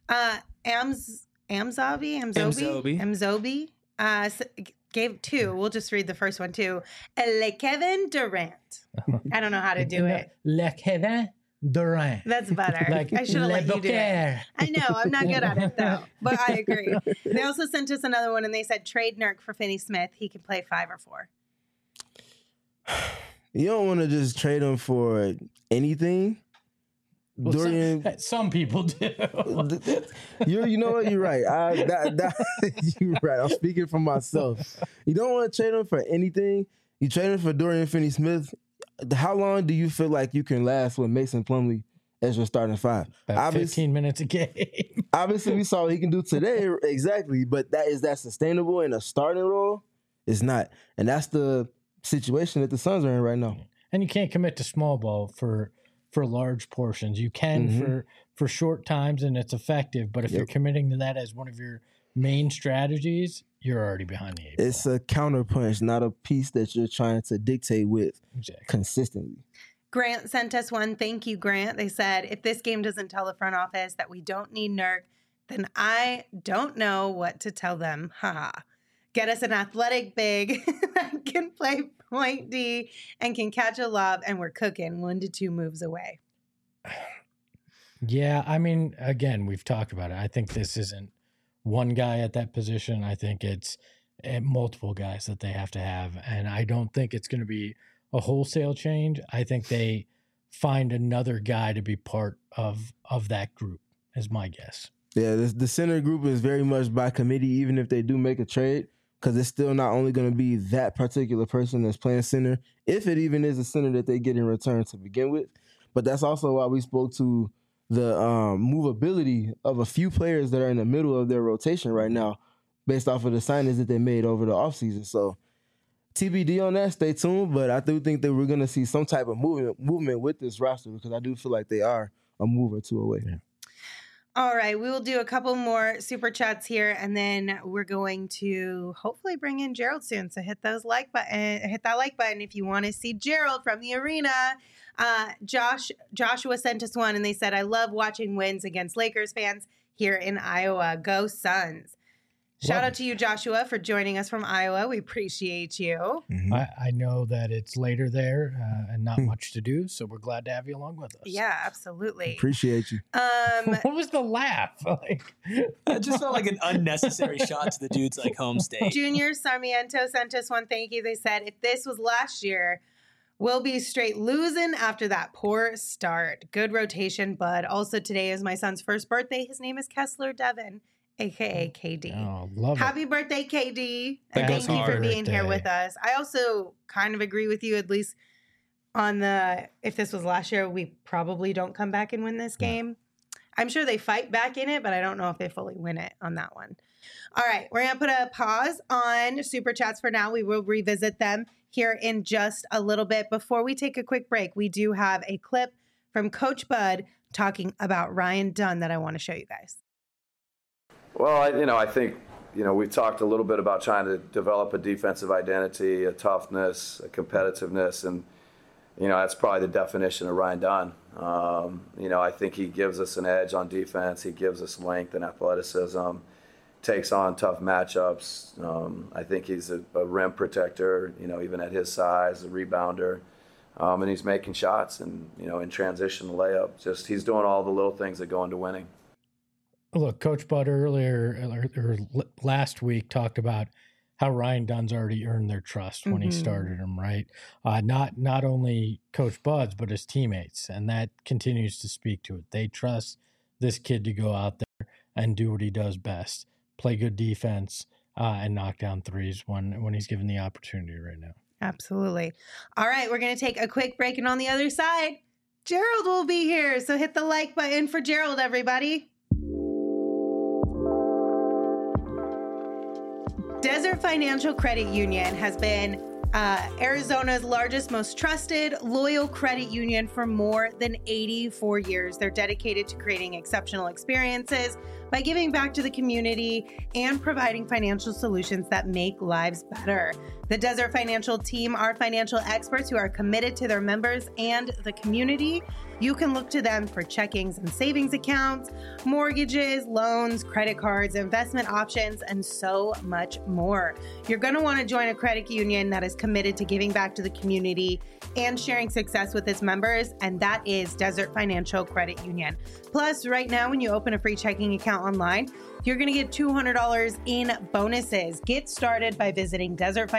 Amzobi gave two. We'll just read the first one too. Le Kevin Durant. I don't know how to do it. Le Kevin Durant. That's better. I should have let you do it. I know. I'm not good at it though, but I agree. They also sent us another one and they said trade Nurk for Finney Smith. He can play 5 or 4. You don't want to just trade him for anything. Well, Dorian, some people do. you know what? You're right. You're right. I'm speaking for myself. You don't want to trade him for anything. You trade him for Dorian Finney-Smith. How long do you feel like you can last with Mason Plumlee as your starting 5? About 15 minutes a game. Obviously, we saw what he can do today. Exactly. But is that sustainable in a starting role? It's not. And that's the situation that the Suns are in right now. And you can't commit to small ball for large portions. You can for short times and it's effective, but if you're committing to that as one of your main strategies, you're already behind the 8 ball. It's a counterpunch, not a piece that you're trying to dictate with consistently. Grant sent us one. Thank you, Grant. They said, if this game doesn't tell the front office that we don't need Nurk, then I don't know what to tell them. Haha. Get us an athletic big that can play point D and can catch a lob, and we're cooking 1 to 2 moves away. Yeah, I mean, again, we've talked about it. I think this isn't one guy at that position. I think it's multiple guys that they have to have, and I don't think it's going to be a wholesale change. I think they find another guy to be part of that group, is my guess. Yeah, the center group is very much by committee, even if they do make a trade. Because it's still not only going to be that particular person that's playing center, if it even is a center that they get in return to begin with. But that's also why we spoke to the movability of a few players that are in the middle of their rotation right now based off of the signings that they made over the offseason. So TBD on that, stay tuned. But I do think that we're going to see some type of movement with this roster because I do feel like they are a move or two away. Yeah. All right, we will do a couple more super chats here, and then we're going to hopefully bring in Gerald soon. So hit that like button if you want to see Gerald from the arena. Joshua sent us one, and they said, "I love watching wins against Lakers fans here in Iowa. Go Suns!" Shout out to you, Joshua, for joining us from Iowa. We appreciate you. Mm-hmm. I know that it's later there and not much to do, so we're glad to have you along with us. Yeah, absolutely. Appreciate you. What was the laugh? It just felt like an unnecessary shot to the dude's home state. Junior Sarmiento sent us one. Thank you. They said, if this was last year, we'll be straight losing after that poor start. Good rotation, bud. Also, today is my son's first birthday. His name is Kessler Devin, a.k.a. KD. Oh, love Happy it. birthday, KD. That And goes thank you for hard. being here Birthday. with us. I also kind of agree with you, at least on if this was last year, we probably don't come back and win this game. I'm sure they fight back in it, but I don't know if they fully win it on that one. All right, we're going to put a pause on Super Chats for now. We will revisit them here in just a little bit. Before we take a quick break, we do have a clip from Coach Bud talking about Ryan Dunn that I want to show you guys. Well, I think, we've talked a little bit about trying to develop a defensive identity, a toughness, a competitiveness, and, that's probably the definition of Ryan Dunn. I think he gives us an edge on defense. He gives us length and athleticism. takes on tough matchups. I think he's a rim protector, even at his size, a rebounder. And he's making shots and, in transition layup. Just he's doing all the little things that go into winning. Look, Coach Bud earlier or last week talked about how Ryan Dunn's already earned their trust when he started him, right? Not only Coach Bud's, but his teammates. And that continues to speak to it. They trust this kid to go out there and do what he does best, play good defense, and knock down threes when he's given the opportunity right now. Absolutely. All right, we're going to take a quick break, and on the other side, Gerald will be here. So hit the like button for Gerald, everybody. Desert Financial Credit Union has been Arizona's largest, most trusted, loyal credit union for more than 84 years. They're dedicated to creating exceptional experiences by giving back to the community and providing financial solutions that make lives better. The Desert Financial team are financial experts who are committed to their members and the community. You can look to them for checkings and savings accounts, mortgages, loans, credit cards, investment options, and so much more. You're going to want to join a credit union that is committed to giving back to the community and sharing success with its members, and that is Desert Financial Credit Union. Plus, right now, when you open a free checking account online, you're going to get $200 in bonuses. Get started by visiting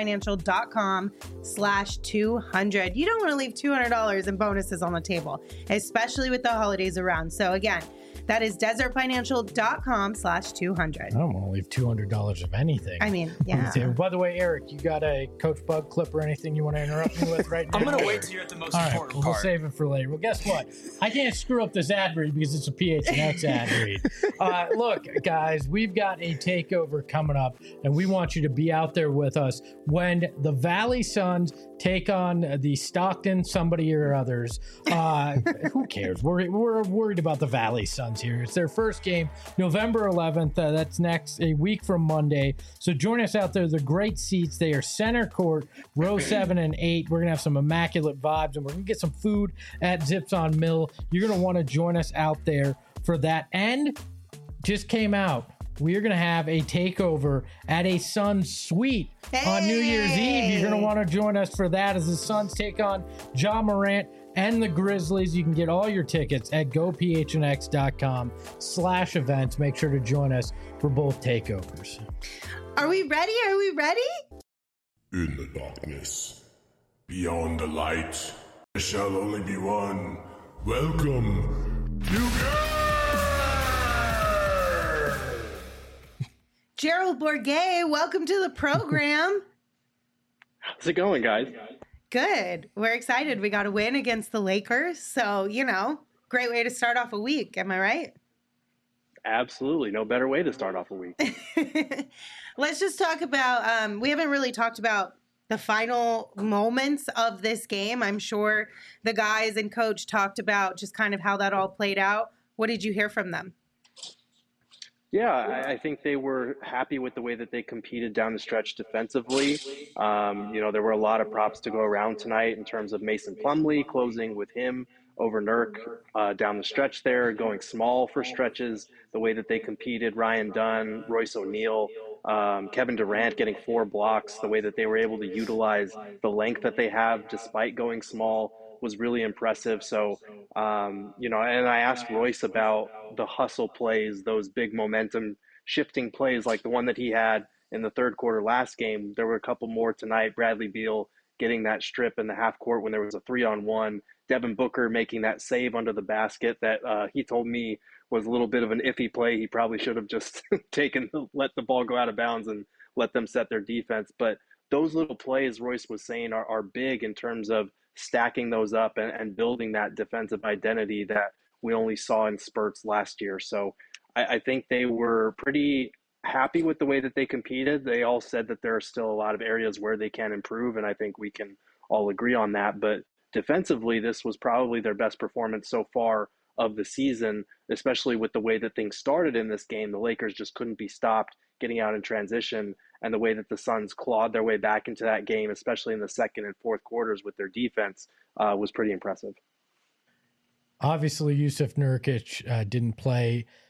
desertfinancial.com/200. You don't want to leave $200 in bonuses on the table, especially with the holidays around. So again, that is desertfinancial.com/200. I don't want to leave $200 of anything. I mean, yeah. By the way, Eric, you got a Coach Bud clip or anything you want to interrupt me with right now? I'm going to wait till you're at the most important part. We'll save it for later. Well, guess what? I can't screw up this ad read because it's a PHNX ad read. Look, guys, we've got a takeover coming up, and we want you to be out there with us when the Valley Suns take on the Stockton somebody or others. Who cares? We're worried about the Valley Suns here. It's their first game, November 11th. That's a week from Monday. So join us out there. The great seats. They are center court, row 7 and 8. We're going to have some immaculate vibes, and we're going to get some food at Zips on Mill. You're going to want to join us out there for that. And just came out, we're going to have a takeover at a Suns suite on New Year's Eve. You're going to want to join us for that as the Suns take on Ja Morant and the Grizzlies. You can get all your tickets at gophnx.com/events. Make sure to join us for both takeovers. Are we ready? Are we ready? In the darkness, beyond the light, there shall only be one. Welcome, you Gerald Bourguet, welcome to the program. How's it going, guys? Good. We're excited. We got a win against the Lakers. So, great way to start off a week. Am I right? Absolutely. No better way to start off a week. Let's just talk about, we haven't really talked about the final moments of this game. I'm sure the guys and coach talked about just kind of how that all played out. What did you hear from them? Yeah, I think they were happy with the way that they competed down the stretch defensively. There were a lot of props to go around tonight in terms of Mason Plumlee closing with him over Nurk down the stretch there, going small for stretches, the way that they competed, Ryan Dunn, Royce O'Neal, Kevin Durant getting 4 blocks, the way that they were able to utilize the length that they have despite going small was really impressive. So, and I asked Royce about the hustle plays, those big momentum shifting plays like the one that he had in the third quarter last game. There were a couple more tonight. Bradley Beal getting that strip in the half court when there was a 3-on-1. Devin Booker making that save under the basket that he told me was a little bit of an iffy play. He probably should have just let the ball go out of bounds and let them set their defense. But those little plays, Royce was saying, are big in terms of stacking those up and building that defensive identity that we only saw in spurts last year. So I think they were pretty happy with the way that they competed. They all said that there are still a lot of areas where they can improve, and I think we can all agree on that. But defensively, this was probably their best performance so far of the season, especially with the way that things started in this game. The Lakers just couldn't be stopped getting out in transition, and the way that the Suns clawed their way back into that game, especially in the second and fourth quarters with their defense, was pretty impressive. Obviously, Yusuf Nurkic didn't play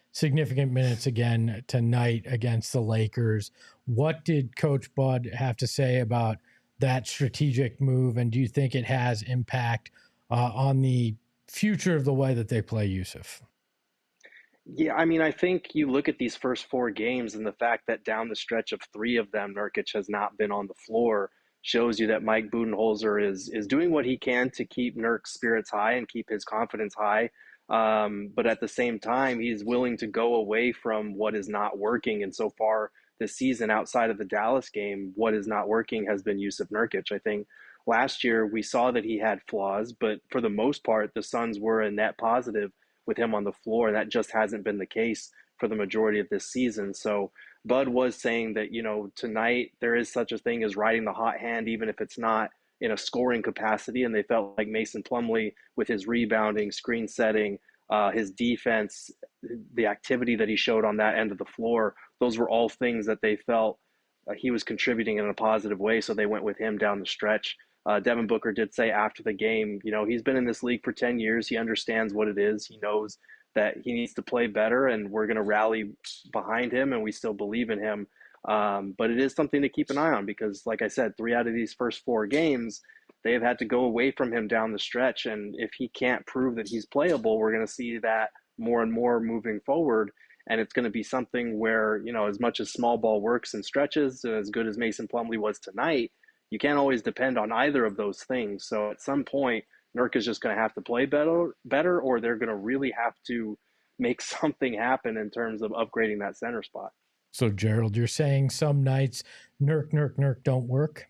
significant minutes again tonight against the Lakers. What did Coach Bud have to say about that strategic move, and do you think it has impact on the future of the way that they play Yusuf? Yeah, I mean, I think you look at these first 4 games and the fact that down the stretch of 3 of them, Nurkic has not been on the floor shows you that Mike Budenholzer is doing what he can to keep Nurk's spirits high and keep his confidence high. But at the same time, he's willing to go away from what is not working. And so far this season, outside of the Dallas game, what is not working has been Yusuf Nurkic. I think last year we saw that he had flaws, but for the most part, the Suns were a net positive with him on the floor, and that just hasn't been the case for the majority of this season. So Bud was saying that, tonight there is such a thing as riding the hot hand, even if it's not in a scoring capacity. And they felt like Mason Plumlee, with his rebounding, screen setting, his defense, the activity that he showed on that end of the floor, those were all things that they felt he was contributing in a positive way. So they went with him down the stretch. Devin Booker did say after the game, he's been in this league for 10 years. He understands what it is. He knows that he needs to play better, and we're going to rally behind him, and we still believe in him. But it is something to keep an eye on because, like I said, 3 out of these first 4 games, they have had to go away from him down the stretch. And if he can't prove that he's playable, we're going to see that more and more moving forward. And it's going to be something where, as much as small ball works in stretches, and as good as Mason Plumlee was tonight, you can't always depend on either of those things. So at some point, Nurk is just going to have to play better, or they're going to really have to make something happen in terms of upgrading that center spot. So, Gerald, you're saying some nights Nurk don't work?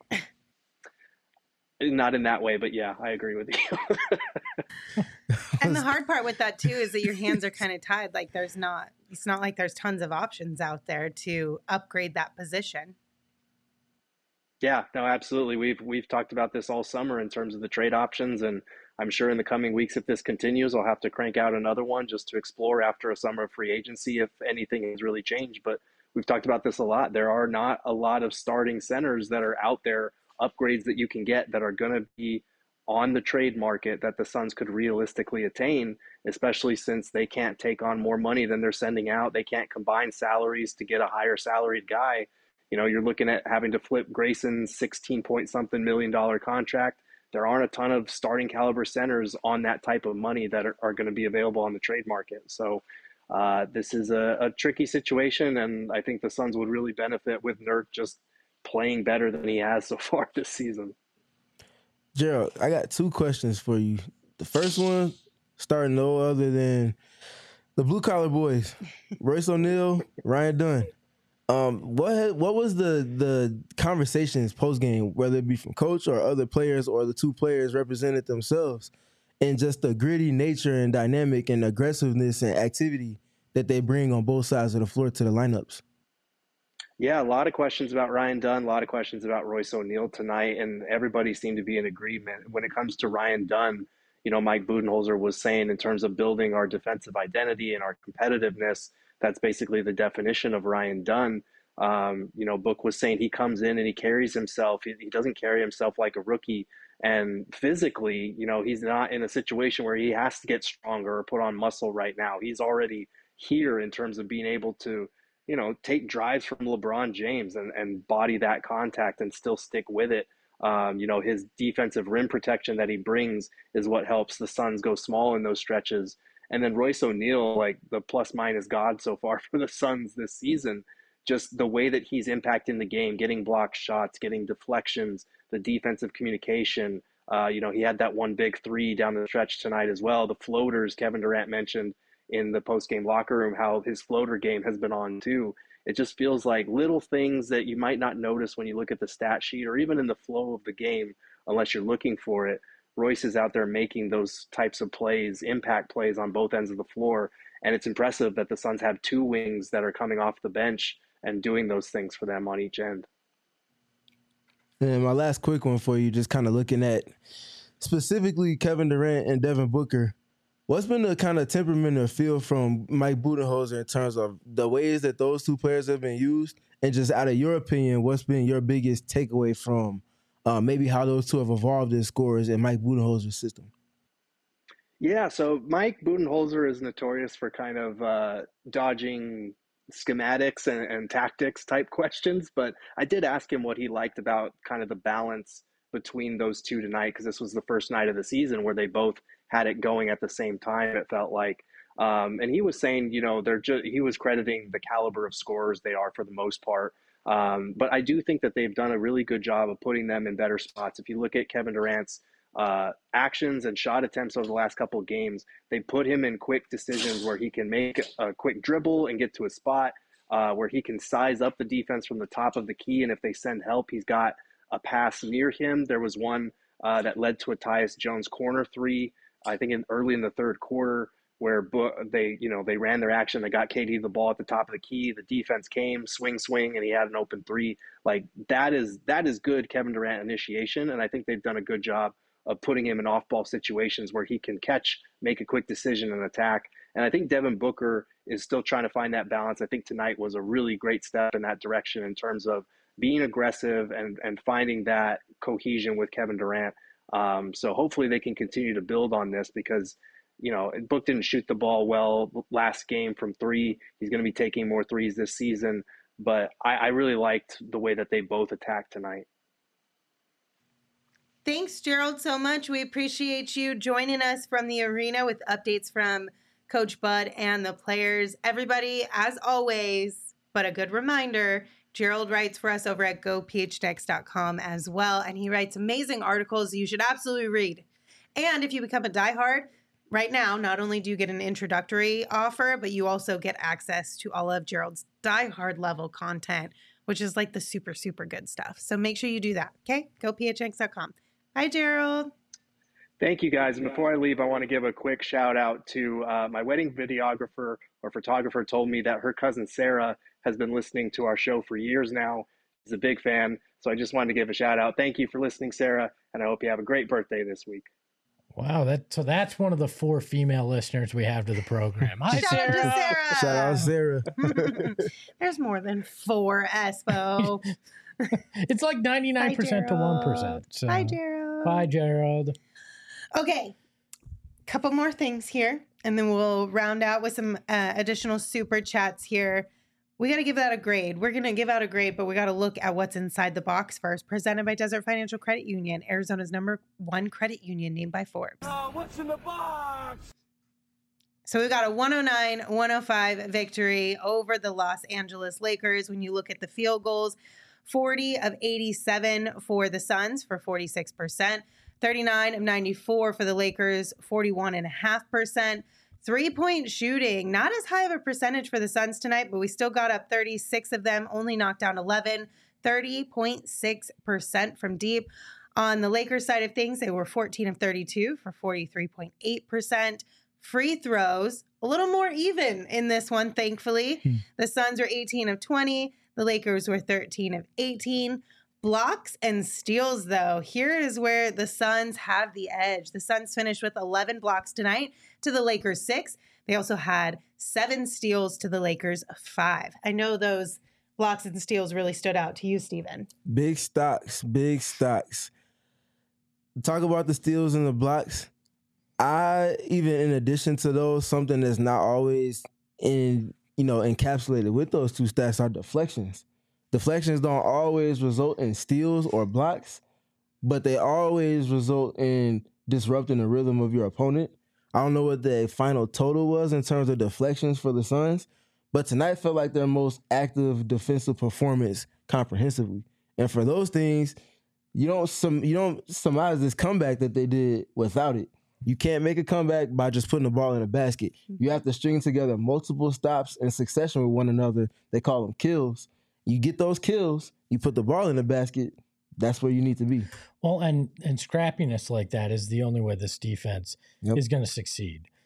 Not in that way, but yeah, I agree with you. And the hard part with that, too, is that your hands are kind of tied. Like it's not like there's tons of options out there to upgrade that position. Yeah, no, absolutely. We've talked about this all summer in terms of the trade options, and I'm sure in the coming weeks, if this continues, I'll have to crank out another one just to explore after a summer of free agency if anything has really changed. But we've talked about this a lot. There are not a lot of starting centers that are out there, upgrades that you can get that are going to be on the trade market that the Suns could realistically attain, especially since they can't take on more money than they're sending out. They can't combine salaries to get a higher salaried guy. You're looking at having to flip Grayson's 16-point-something million contract. There aren't a ton of starting caliber centers on that type of money that are going to be available on the trade market. So this is a tricky situation, and I think the Suns would really benefit with Nurk just playing better than he has so far this season. Gerald, I got 2 questions for you. The first one, starting no other than the blue collar boys, Royce O'Neal, Ryan Dunn. What was the conversations post game, whether it be from coach or other players or the 2 players represented themselves, and just the gritty nature and dynamic and aggressiveness and activity that they bring on both sides of the floor to the lineups? Yeah, a lot of questions about Ryan Dunn, a lot of questions about Royce O'Neal tonight, and everybody seemed to be in agreement. When it comes to Ryan Dunn, Mike Budenholzer was saying in terms of building our defensive identity and our competitiveness, that's basically the definition of Ryan Dunn. Book was saying he comes in and he carries himself. He doesn't carry himself like a rookie. And physically, he's not in a situation where he has to get stronger or put on muscle right now. He's already here in terms of being able to, take drives from LeBron James and body that contact and still stick with it. His defensive rim protection that he brings is what helps the Suns go small in those stretches. And then Royce O'Neal, like the plus minus god so far for the Suns this season, just the way that he's impacting the game, getting blocked shots, getting deflections, the defensive communication. He had that one big 3 down the stretch tonight as well. The floaters, Kevin Durant mentioned in the post-game locker room, how his floater game has been on too. It just feels like little things that you might not notice when you look at the stat sheet or even in the flow of the game, unless you're looking for it. Royce is out there making those types of plays, impact plays on both ends of the floor. And it's impressive that the Suns have 2 wings that are coming off the bench and doing those things for them on each end. And my last quick one for you, just kind of looking at specifically Kevin Durant and Devin Booker. What's been the kind of temperament or feel from Mike Budenholzer in terms of the ways that those 2 players have been used? And just out of your opinion, what's been your biggest takeaway from maybe how those 2 have evolved as scorers in Mike Budenholzer's system? Yeah, so Mike Budenholzer is notorious for kind of dodging schematics and tactics type questions, but I did ask him what he liked about kind of the balance between those two tonight, because this was the first night of the season where they both had it going at the same time, it felt like. And he was saying, he was crediting the caliber of scorers they are for the most part. But I do think that they've done a really good job of putting them in better spots. If you look at Kevin Durant's actions and shot attempts over the last couple of games, they put him in quick decisions where he can make a quick dribble and get to a spot where he can size up the defense from the top of the key. And if they send help, he's got a pass near him. There was one that led to a Tyus Jones corner three, I think early in the third quarter, where they ran their action. They got KD the ball at the top of the key. The defense came, swing, and he had an open three. Like that is good Kevin Durant initiation, and I think they've done a good job of putting him in off-ball situations where he can catch, make a quick decision, and attack. And I think Devin Booker is still trying to find that balance. I think tonight was a really great step in that direction in terms of being aggressive and finding that cohesion with Kevin Durant. So hopefully they can continue to build on this, because Book didn't shoot the ball well last game from three. He's going to be taking more threes this season. But I really liked the way that they both attacked tonight. Thanks, Gerald, so much. We appreciate you joining us from the arena with updates from Coach Bud and the players. Everybody, as always, but a good reminder, Gerald writes for us over at gophnx.com as well, and he writes amazing articles you should absolutely read. And if you become a diehard, right now, not only do you get an introductory offer, but you also get access to all of Gerald's diehard level content, which is like the super, super good stuff. So make sure you do that, okay? gophnx.com. Hi, Gerald. Thank you, guys. And before I leave, I want to give a quick shout out to my wedding videographer or photographer told me that her cousin Sarah has been listening to our show for years now. She's a big fan. So I just wanted to give a shout out. Thank you for listening, Sarah. And I hope you have a great birthday this week. Wow, that's one of the 4 female listeners we have to the program. Hi, Shout out to Sarah. Shout out Sarah. There's more than 4, Espo. It's like 99% to 1%. So. Hi, Gerald. Bye, Gerald. Okay, couple more things here, and then we'll round out with some additional super chats here. We got to give that a grade. We're going to give out a grade, but we got to look at what's inside the box first. Presented by Desert Financial Credit Union, Arizona's #1 credit union named by Forbes. What's in the box? So we got a 109-105 victory over the Los Angeles Lakers. When you look at the field goals, 40 of 87 for the Suns for 46%, 39 of 94 for the Lakers, 41.5%. 3-point shooting, not as high of a percentage for the Suns tonight, but we still got up 36 of them, only knocked down 11, 30.6% from deep. On the Lakers side of things, they were 14 of 32 for 43.8%. Free throws, a little more even in this one, thankfully. The Suns were 18 of 20. The Lakers were 13 of 18. Blocks and steals, though, here is where the Suns have the edge. The Suns finished with 11 blocks tonight to the Lakers 6. They also had 7 steals to the Lakers 5. I know those blocks and steals really stood out to you, Steven. Big stocks, big stocks. Talk about the steals and the blocks. Even in addition to those, something that's not always encapsulated with those two stats are deflections. Deflections don't always result in steals or blocks, but they always result in disrupting the rhythm of your opponent. I don't know what the final total was in terms of deflections for the Suns, but tonight felt like their most active defensive performance comprehensively. And for those things, you don't surmise this comeback that they did without it. You can't make a comeback by just putting the ball in a basket. You have to string together multiple stops in succession with one another. They call them kills. You get those kills, you put the ball in the basket, that's where you need to be. Well, and scrappiness like that is the only way this defense is going to succeed.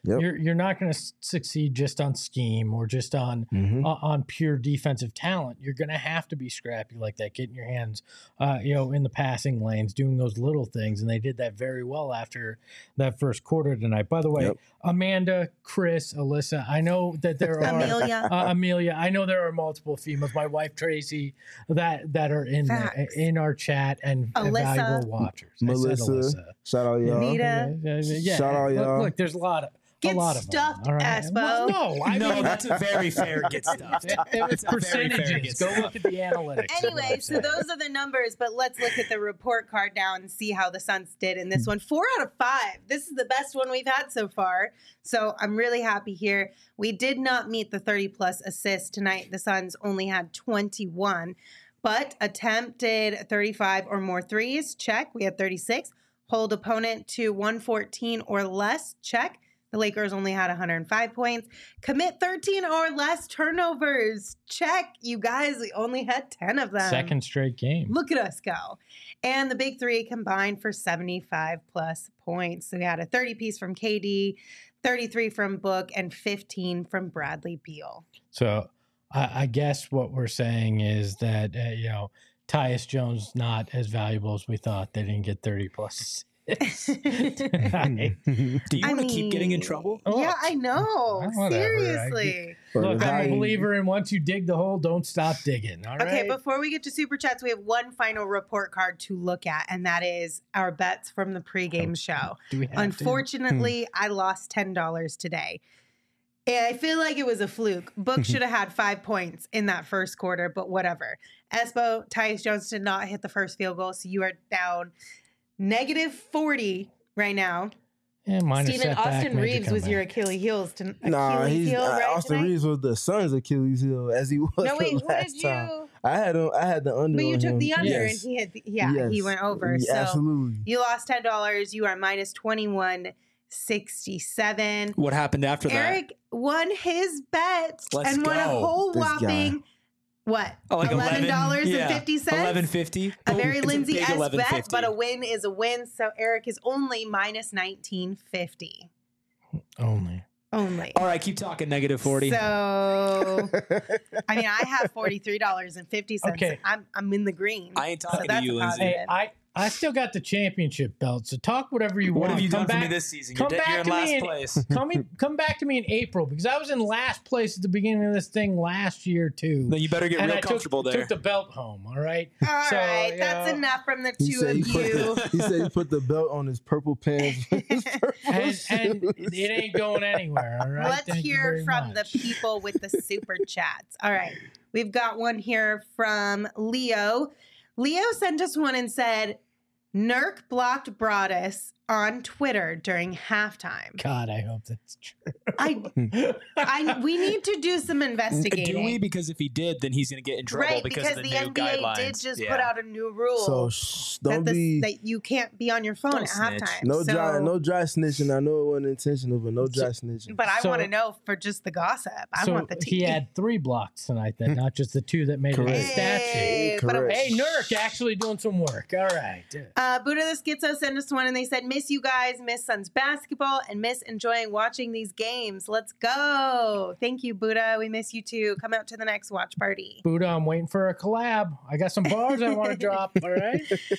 Yep. You're not going to succeed just on scheme or just on pure defensive talent. You're going to have to be scrappy like that, getting your hands, in the passing lanes, doing those little things, and they did that very well after that first quarter tonight. By the way, Amanda, Chris, Alyssa, I know that there are Amelia. I know there are multiple females. My wife Tracy that are in our chat and valuable watchers. Melissa, shout out y'all. Nita, shout out y'all. Look, there's a lot of. Get a lot of stuffed, them, right? Aspo. Well, no, that's a very fair get stuffed. It's percentages. Go look at the analytics. Anyway, so those are the numbers, but let's look at the report card now and see how the Suns did in this one. 4 out of 5. This is the best one we've had so far. So I'm really happy here. We did not meet the 30-plus assists tonight. The Suns only had 21, but attempted 35 or more threes. Check. We had 36. Hold opponent to 114 or less. Check. The Lakers only had 105 points. Commit 13 or less turnovers. Check. You guys, we only had 10 of them. Second straight game. Look at us go. And the big three combined for 75-plus points. So we had a 30-piece from KD, 33 from Book, and 15 from Bradley Beal. So I guess what we're saying is that, Tyus Jones not as valuable as we thought. They didn't get 30-plus. Do you want to keep getting in trouble? Yeah, I know. Seriously. Look, I'm a believer in once you dig the hole, don't stop digging. All right. Okay, before we get to Super Chats, we have one final report card to look at, and that is our bets from the pregame show. Unfortunately, I lost $10 today. And I feel like it was a fluke. Book should have had 5 points in that first quarter, but whatever. Espo, Tyus Jones did not hit the first field goal, so you are down -40 right now. Yeah, Steven, Austin Reeves was your Achilles heel. Austin Reeves was the Suns' Achilles heel as he was. No, wait, who last did time. you? I had the under. But you took him. the under, Yes. and he had. He went over. Yeah, so absolutely. you lost $10. You are -21.67. What happened after that? Eric won his bet Let's and won a go. whole This guy. whopping. What? Like $11.50? $11.50. A very Lindsay-esque bet, $11.50. but a win is a win. So Eric is only -19.50. Only. All right, keep talking. -40. So, I mean, I have $43.50. Okay. I'm in the green. I ain't talking to that's you, a Lindsay. positive. Hey, I still got the championship belt, so talk whatever you What want. have you done Come for me back- this season? Come You're back in to last me place. Come back to me in April because I was in last place at the beginning of this thing last year too. Then you better get And real I comfortable took there. the belt home. All right. All right, that's enough from the two of you. He said he put the belt on his purple pants. and it ain't going anywhere. All right. Let's Thank you hear very from much. the people with the super chats. All right. We've got one here from Leo. Leo sent us one and said, Nurk blocked Broadus on Twitter during halftime. God, I hope that's true. We need to do some investigating. Do we? Because if he did, then he's going to get in trouble Right, because of the, the new NBA guidelines. did just put out a new rule So don't be that you can't be on your phone Don't at snitch. halftime. no So- dry snitching. I know it wasn't intentional, but no dry snitching. But I So- want to know for just the gossip. I want the tea. he had 3 blocks tonight, then not just the 2 that made it Correct. a stat sheet. Hey, but Correct. Hey, Nurk actually doing some work. All right. Buddha the Schizo sent us one and they said, miss you guys, miss Suns basketball, and miss enjoying watching these games. Let's go. Thank you, Buddha. We miss you too. Come out to the next watch party. Buddha, I'm waiting for a collab. I got some bars I want to drop. All right.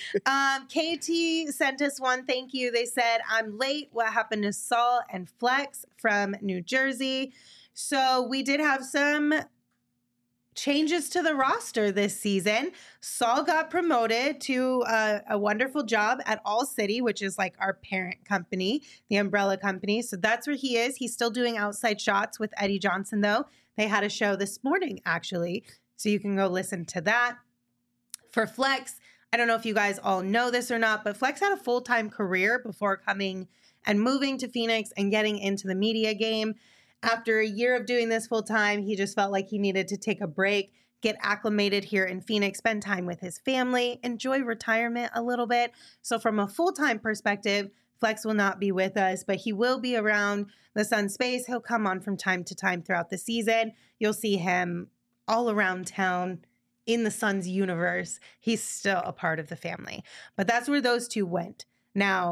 KT sent us one. Thank you. They said, I'm late. What happened to Saul and Flex from New Jersey? So we did have some changes to the roster this season. Saul got promoted to a wonderful job at All City, which is like our parent company, the umbrella company. So that's where he is. He's still doing outside shots with Eddie Johnson, though. They had a show this morning, actually. So you can go listen to that. For Flex, I don't know if you guys all know this or not, but Flex had a full-time career before coming and moving to Phoenix and getting into the media game. After a year of doing this full-time, he just felt like he needed to take a break, get acclimated here in Phoenix, spend time with his family, enjoy retirement a little bit. So from a full-time perspective, Flex will not be with us, but he will be around the Sun space. He'll come on from time to time throughout the season. You'll see him all around town in the Suns universe. He's still a part of the family. But that's where those two went. Now,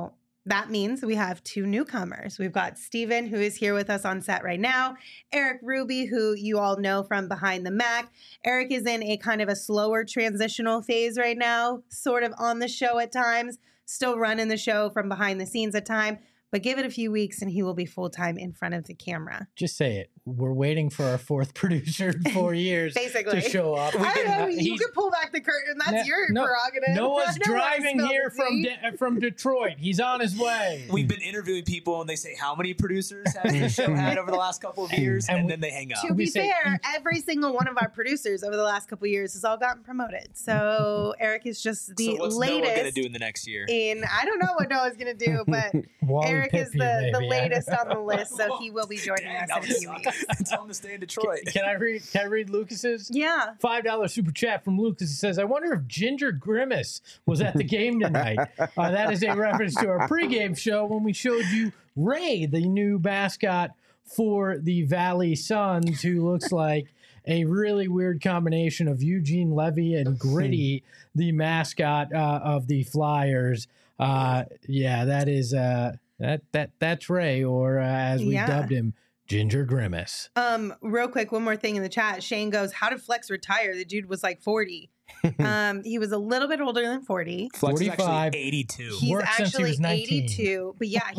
That means we have two newcomers. We've got Steven, who is here with us on set right now, Eric Ruby, who you all know from Behind the Mac. Eric is in a kind of a slower transitional phase right now, sort of on the show at times, still running the show from behind the scenes at times. But give it a few weeks and he will be full-time in front of the camera. Just say it. We're waiting for our fourth producer in 4 years Basically. to show up. I don't know. You can pull back the curtain. That's your prerogative. Noah's driving here from Detroit. He's on his way. We've been interviewing people and they say, how many producers has the show had over the last couple of years? And then they hang up. To be fair, every single one of our producers over the last couple of years has all gotten promoted. So Eric is just the so what's latest. Noah going to do in the next year? I don't know what Noah's going to do, but Eric is the latest on the list, so he will be joining us in a few weeks. Tell him to stay in Detroit. Can I read Lucas's? Yeah. $5 super chat from Lucas. He says, I wonder if Ginger Grimace was at the game tonight. That is a reference to our pregame show when we showed you Ray, the new mascot for the Valley Suns, who looks like a really weird combination of Eugene Levy and Gritty, the mascot of the Flyers. That is that's Ray, or as we dubbed him, Ginger Grimace. Real quick, one more thing in the chat. Shane goes, how did Flex retire? The dude was like 40. He was a little bit older than 40. Flex is actually 82. He's actually 82. But yeah,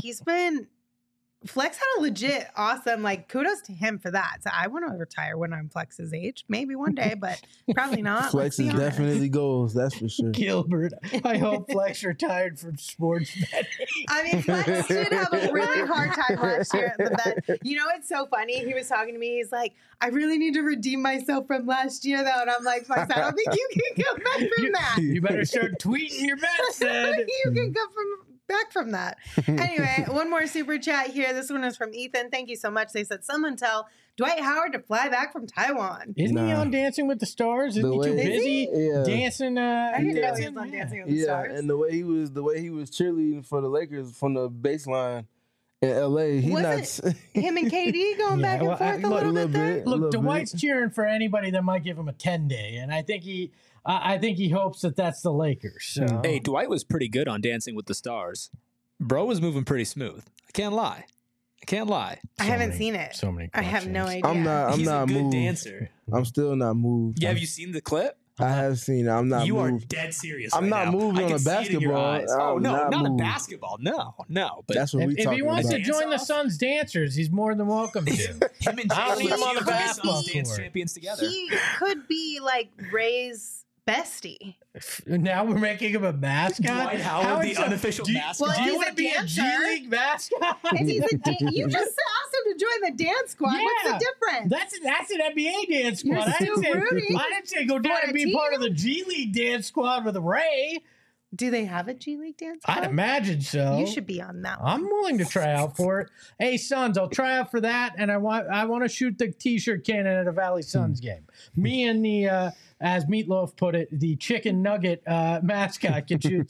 Flex had a legit awesome, kudos to him for that. So I want to retire when I'm Flex's age. Maybe one day, but probably not. Flex is definitely goals, that's for sure. Gilbert, I hope Flex retired from sports betting. I mean, Flex did have a really hard time last year at the bet. You know, it's so funny. He was talking to me. He's like, I really need to redeem myself from last year, though. And I'm like, Flex, I don't think you can come back from that. You better start tweeting your bets, then. You can come back from that. Anyway, one more super chat here. This one is from Ethan. Thank you so much. They said, someone tell Dwight Howard to fly back from Taiwan. Isn't he on Dancing with the Stars? Isn't he too busy dancing? I didn't know he was on Dancing with the Stars. Yeah, and the way he was cheerleading for the Lakers from the baseline in LA, him and KD going back and forth a little bit there? Look, Dwight's cheering for anybody that might give him a 10-day, and I think he hopes that that's the Lakers. So. Hey, Dwight was pretty good on Dancing with the Stars. Bro was moving pretty smooth. I can't lie. I haven't seen it. So many. I have no idea. He's not a good moved. dancer. I'm still not moved. Yeah, have you seen the clip? I have seen it. I'm not you moved. are dead serious. I'm not moved on a basketball. Oh, no, not a basketball. No. But that's what we talking about. If he wants to join the Suns dancers, he's more than welcome to. Him and Jalen on the basketball dance champions together. He could be like Ray's bestie. Now we're making him a mascot. Dwight Howard, the unofficial mascot. Do you want to be a G League mascot? If he's you just asked him to join the dance squad. Yeah, what's the difference? That's an NBA dance squad. I didn't say go down and be part of the G League dance squad with Ray. Do they have a G League dance squad? I'd imagine so. You should be on that one. I'm willing to try out for it. Hey, Suns, I'll try out for that, and I want to shoot the T-shirt cannon at a Valley Suns game. Me and the as Meatloaf put it, the chicken nugget mascot can shoot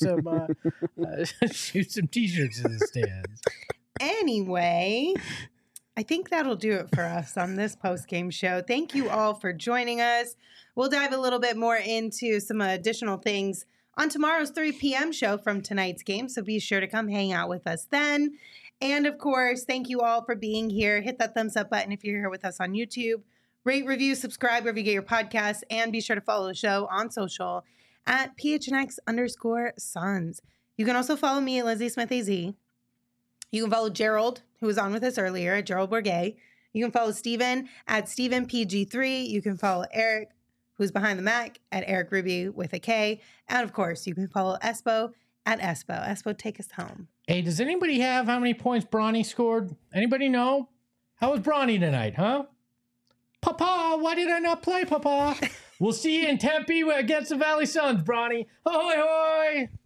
some T-shirts in the stands. Anyway, I think that'll do it for us on this post-game show. Thank you all for joining us. We'll dive a little bit more into some additional things on tomorrow's 3 p.m. show from tonight's game, so be sure to come hang out with us then. And, of course, thank you all for being here. Hit that thumbs up button if you're here with us on YouTube. Rate, review, subscribe wherever you get your podcasts, and be sure to follow the show on social at PHNX_Suns. You can also follow me at Lizzie Smith AZ. You can follow Gerald, who was on with us earlier, at Gerald Bourget. You can follow Steven at StevenPG3. You can follow Eric, who's behind the Mac, at Eric Ruby with a K. And, of course, you can follow Espo at Espo. Espo, take us home. Hey, does anybody have how many points Bronny scored? Anybody know? How was Bronny tonight, huh? Papa, why did I not play, Papa? We'll see you in Tempe against the Valley Suns, Bronny. Ahoy, hoy!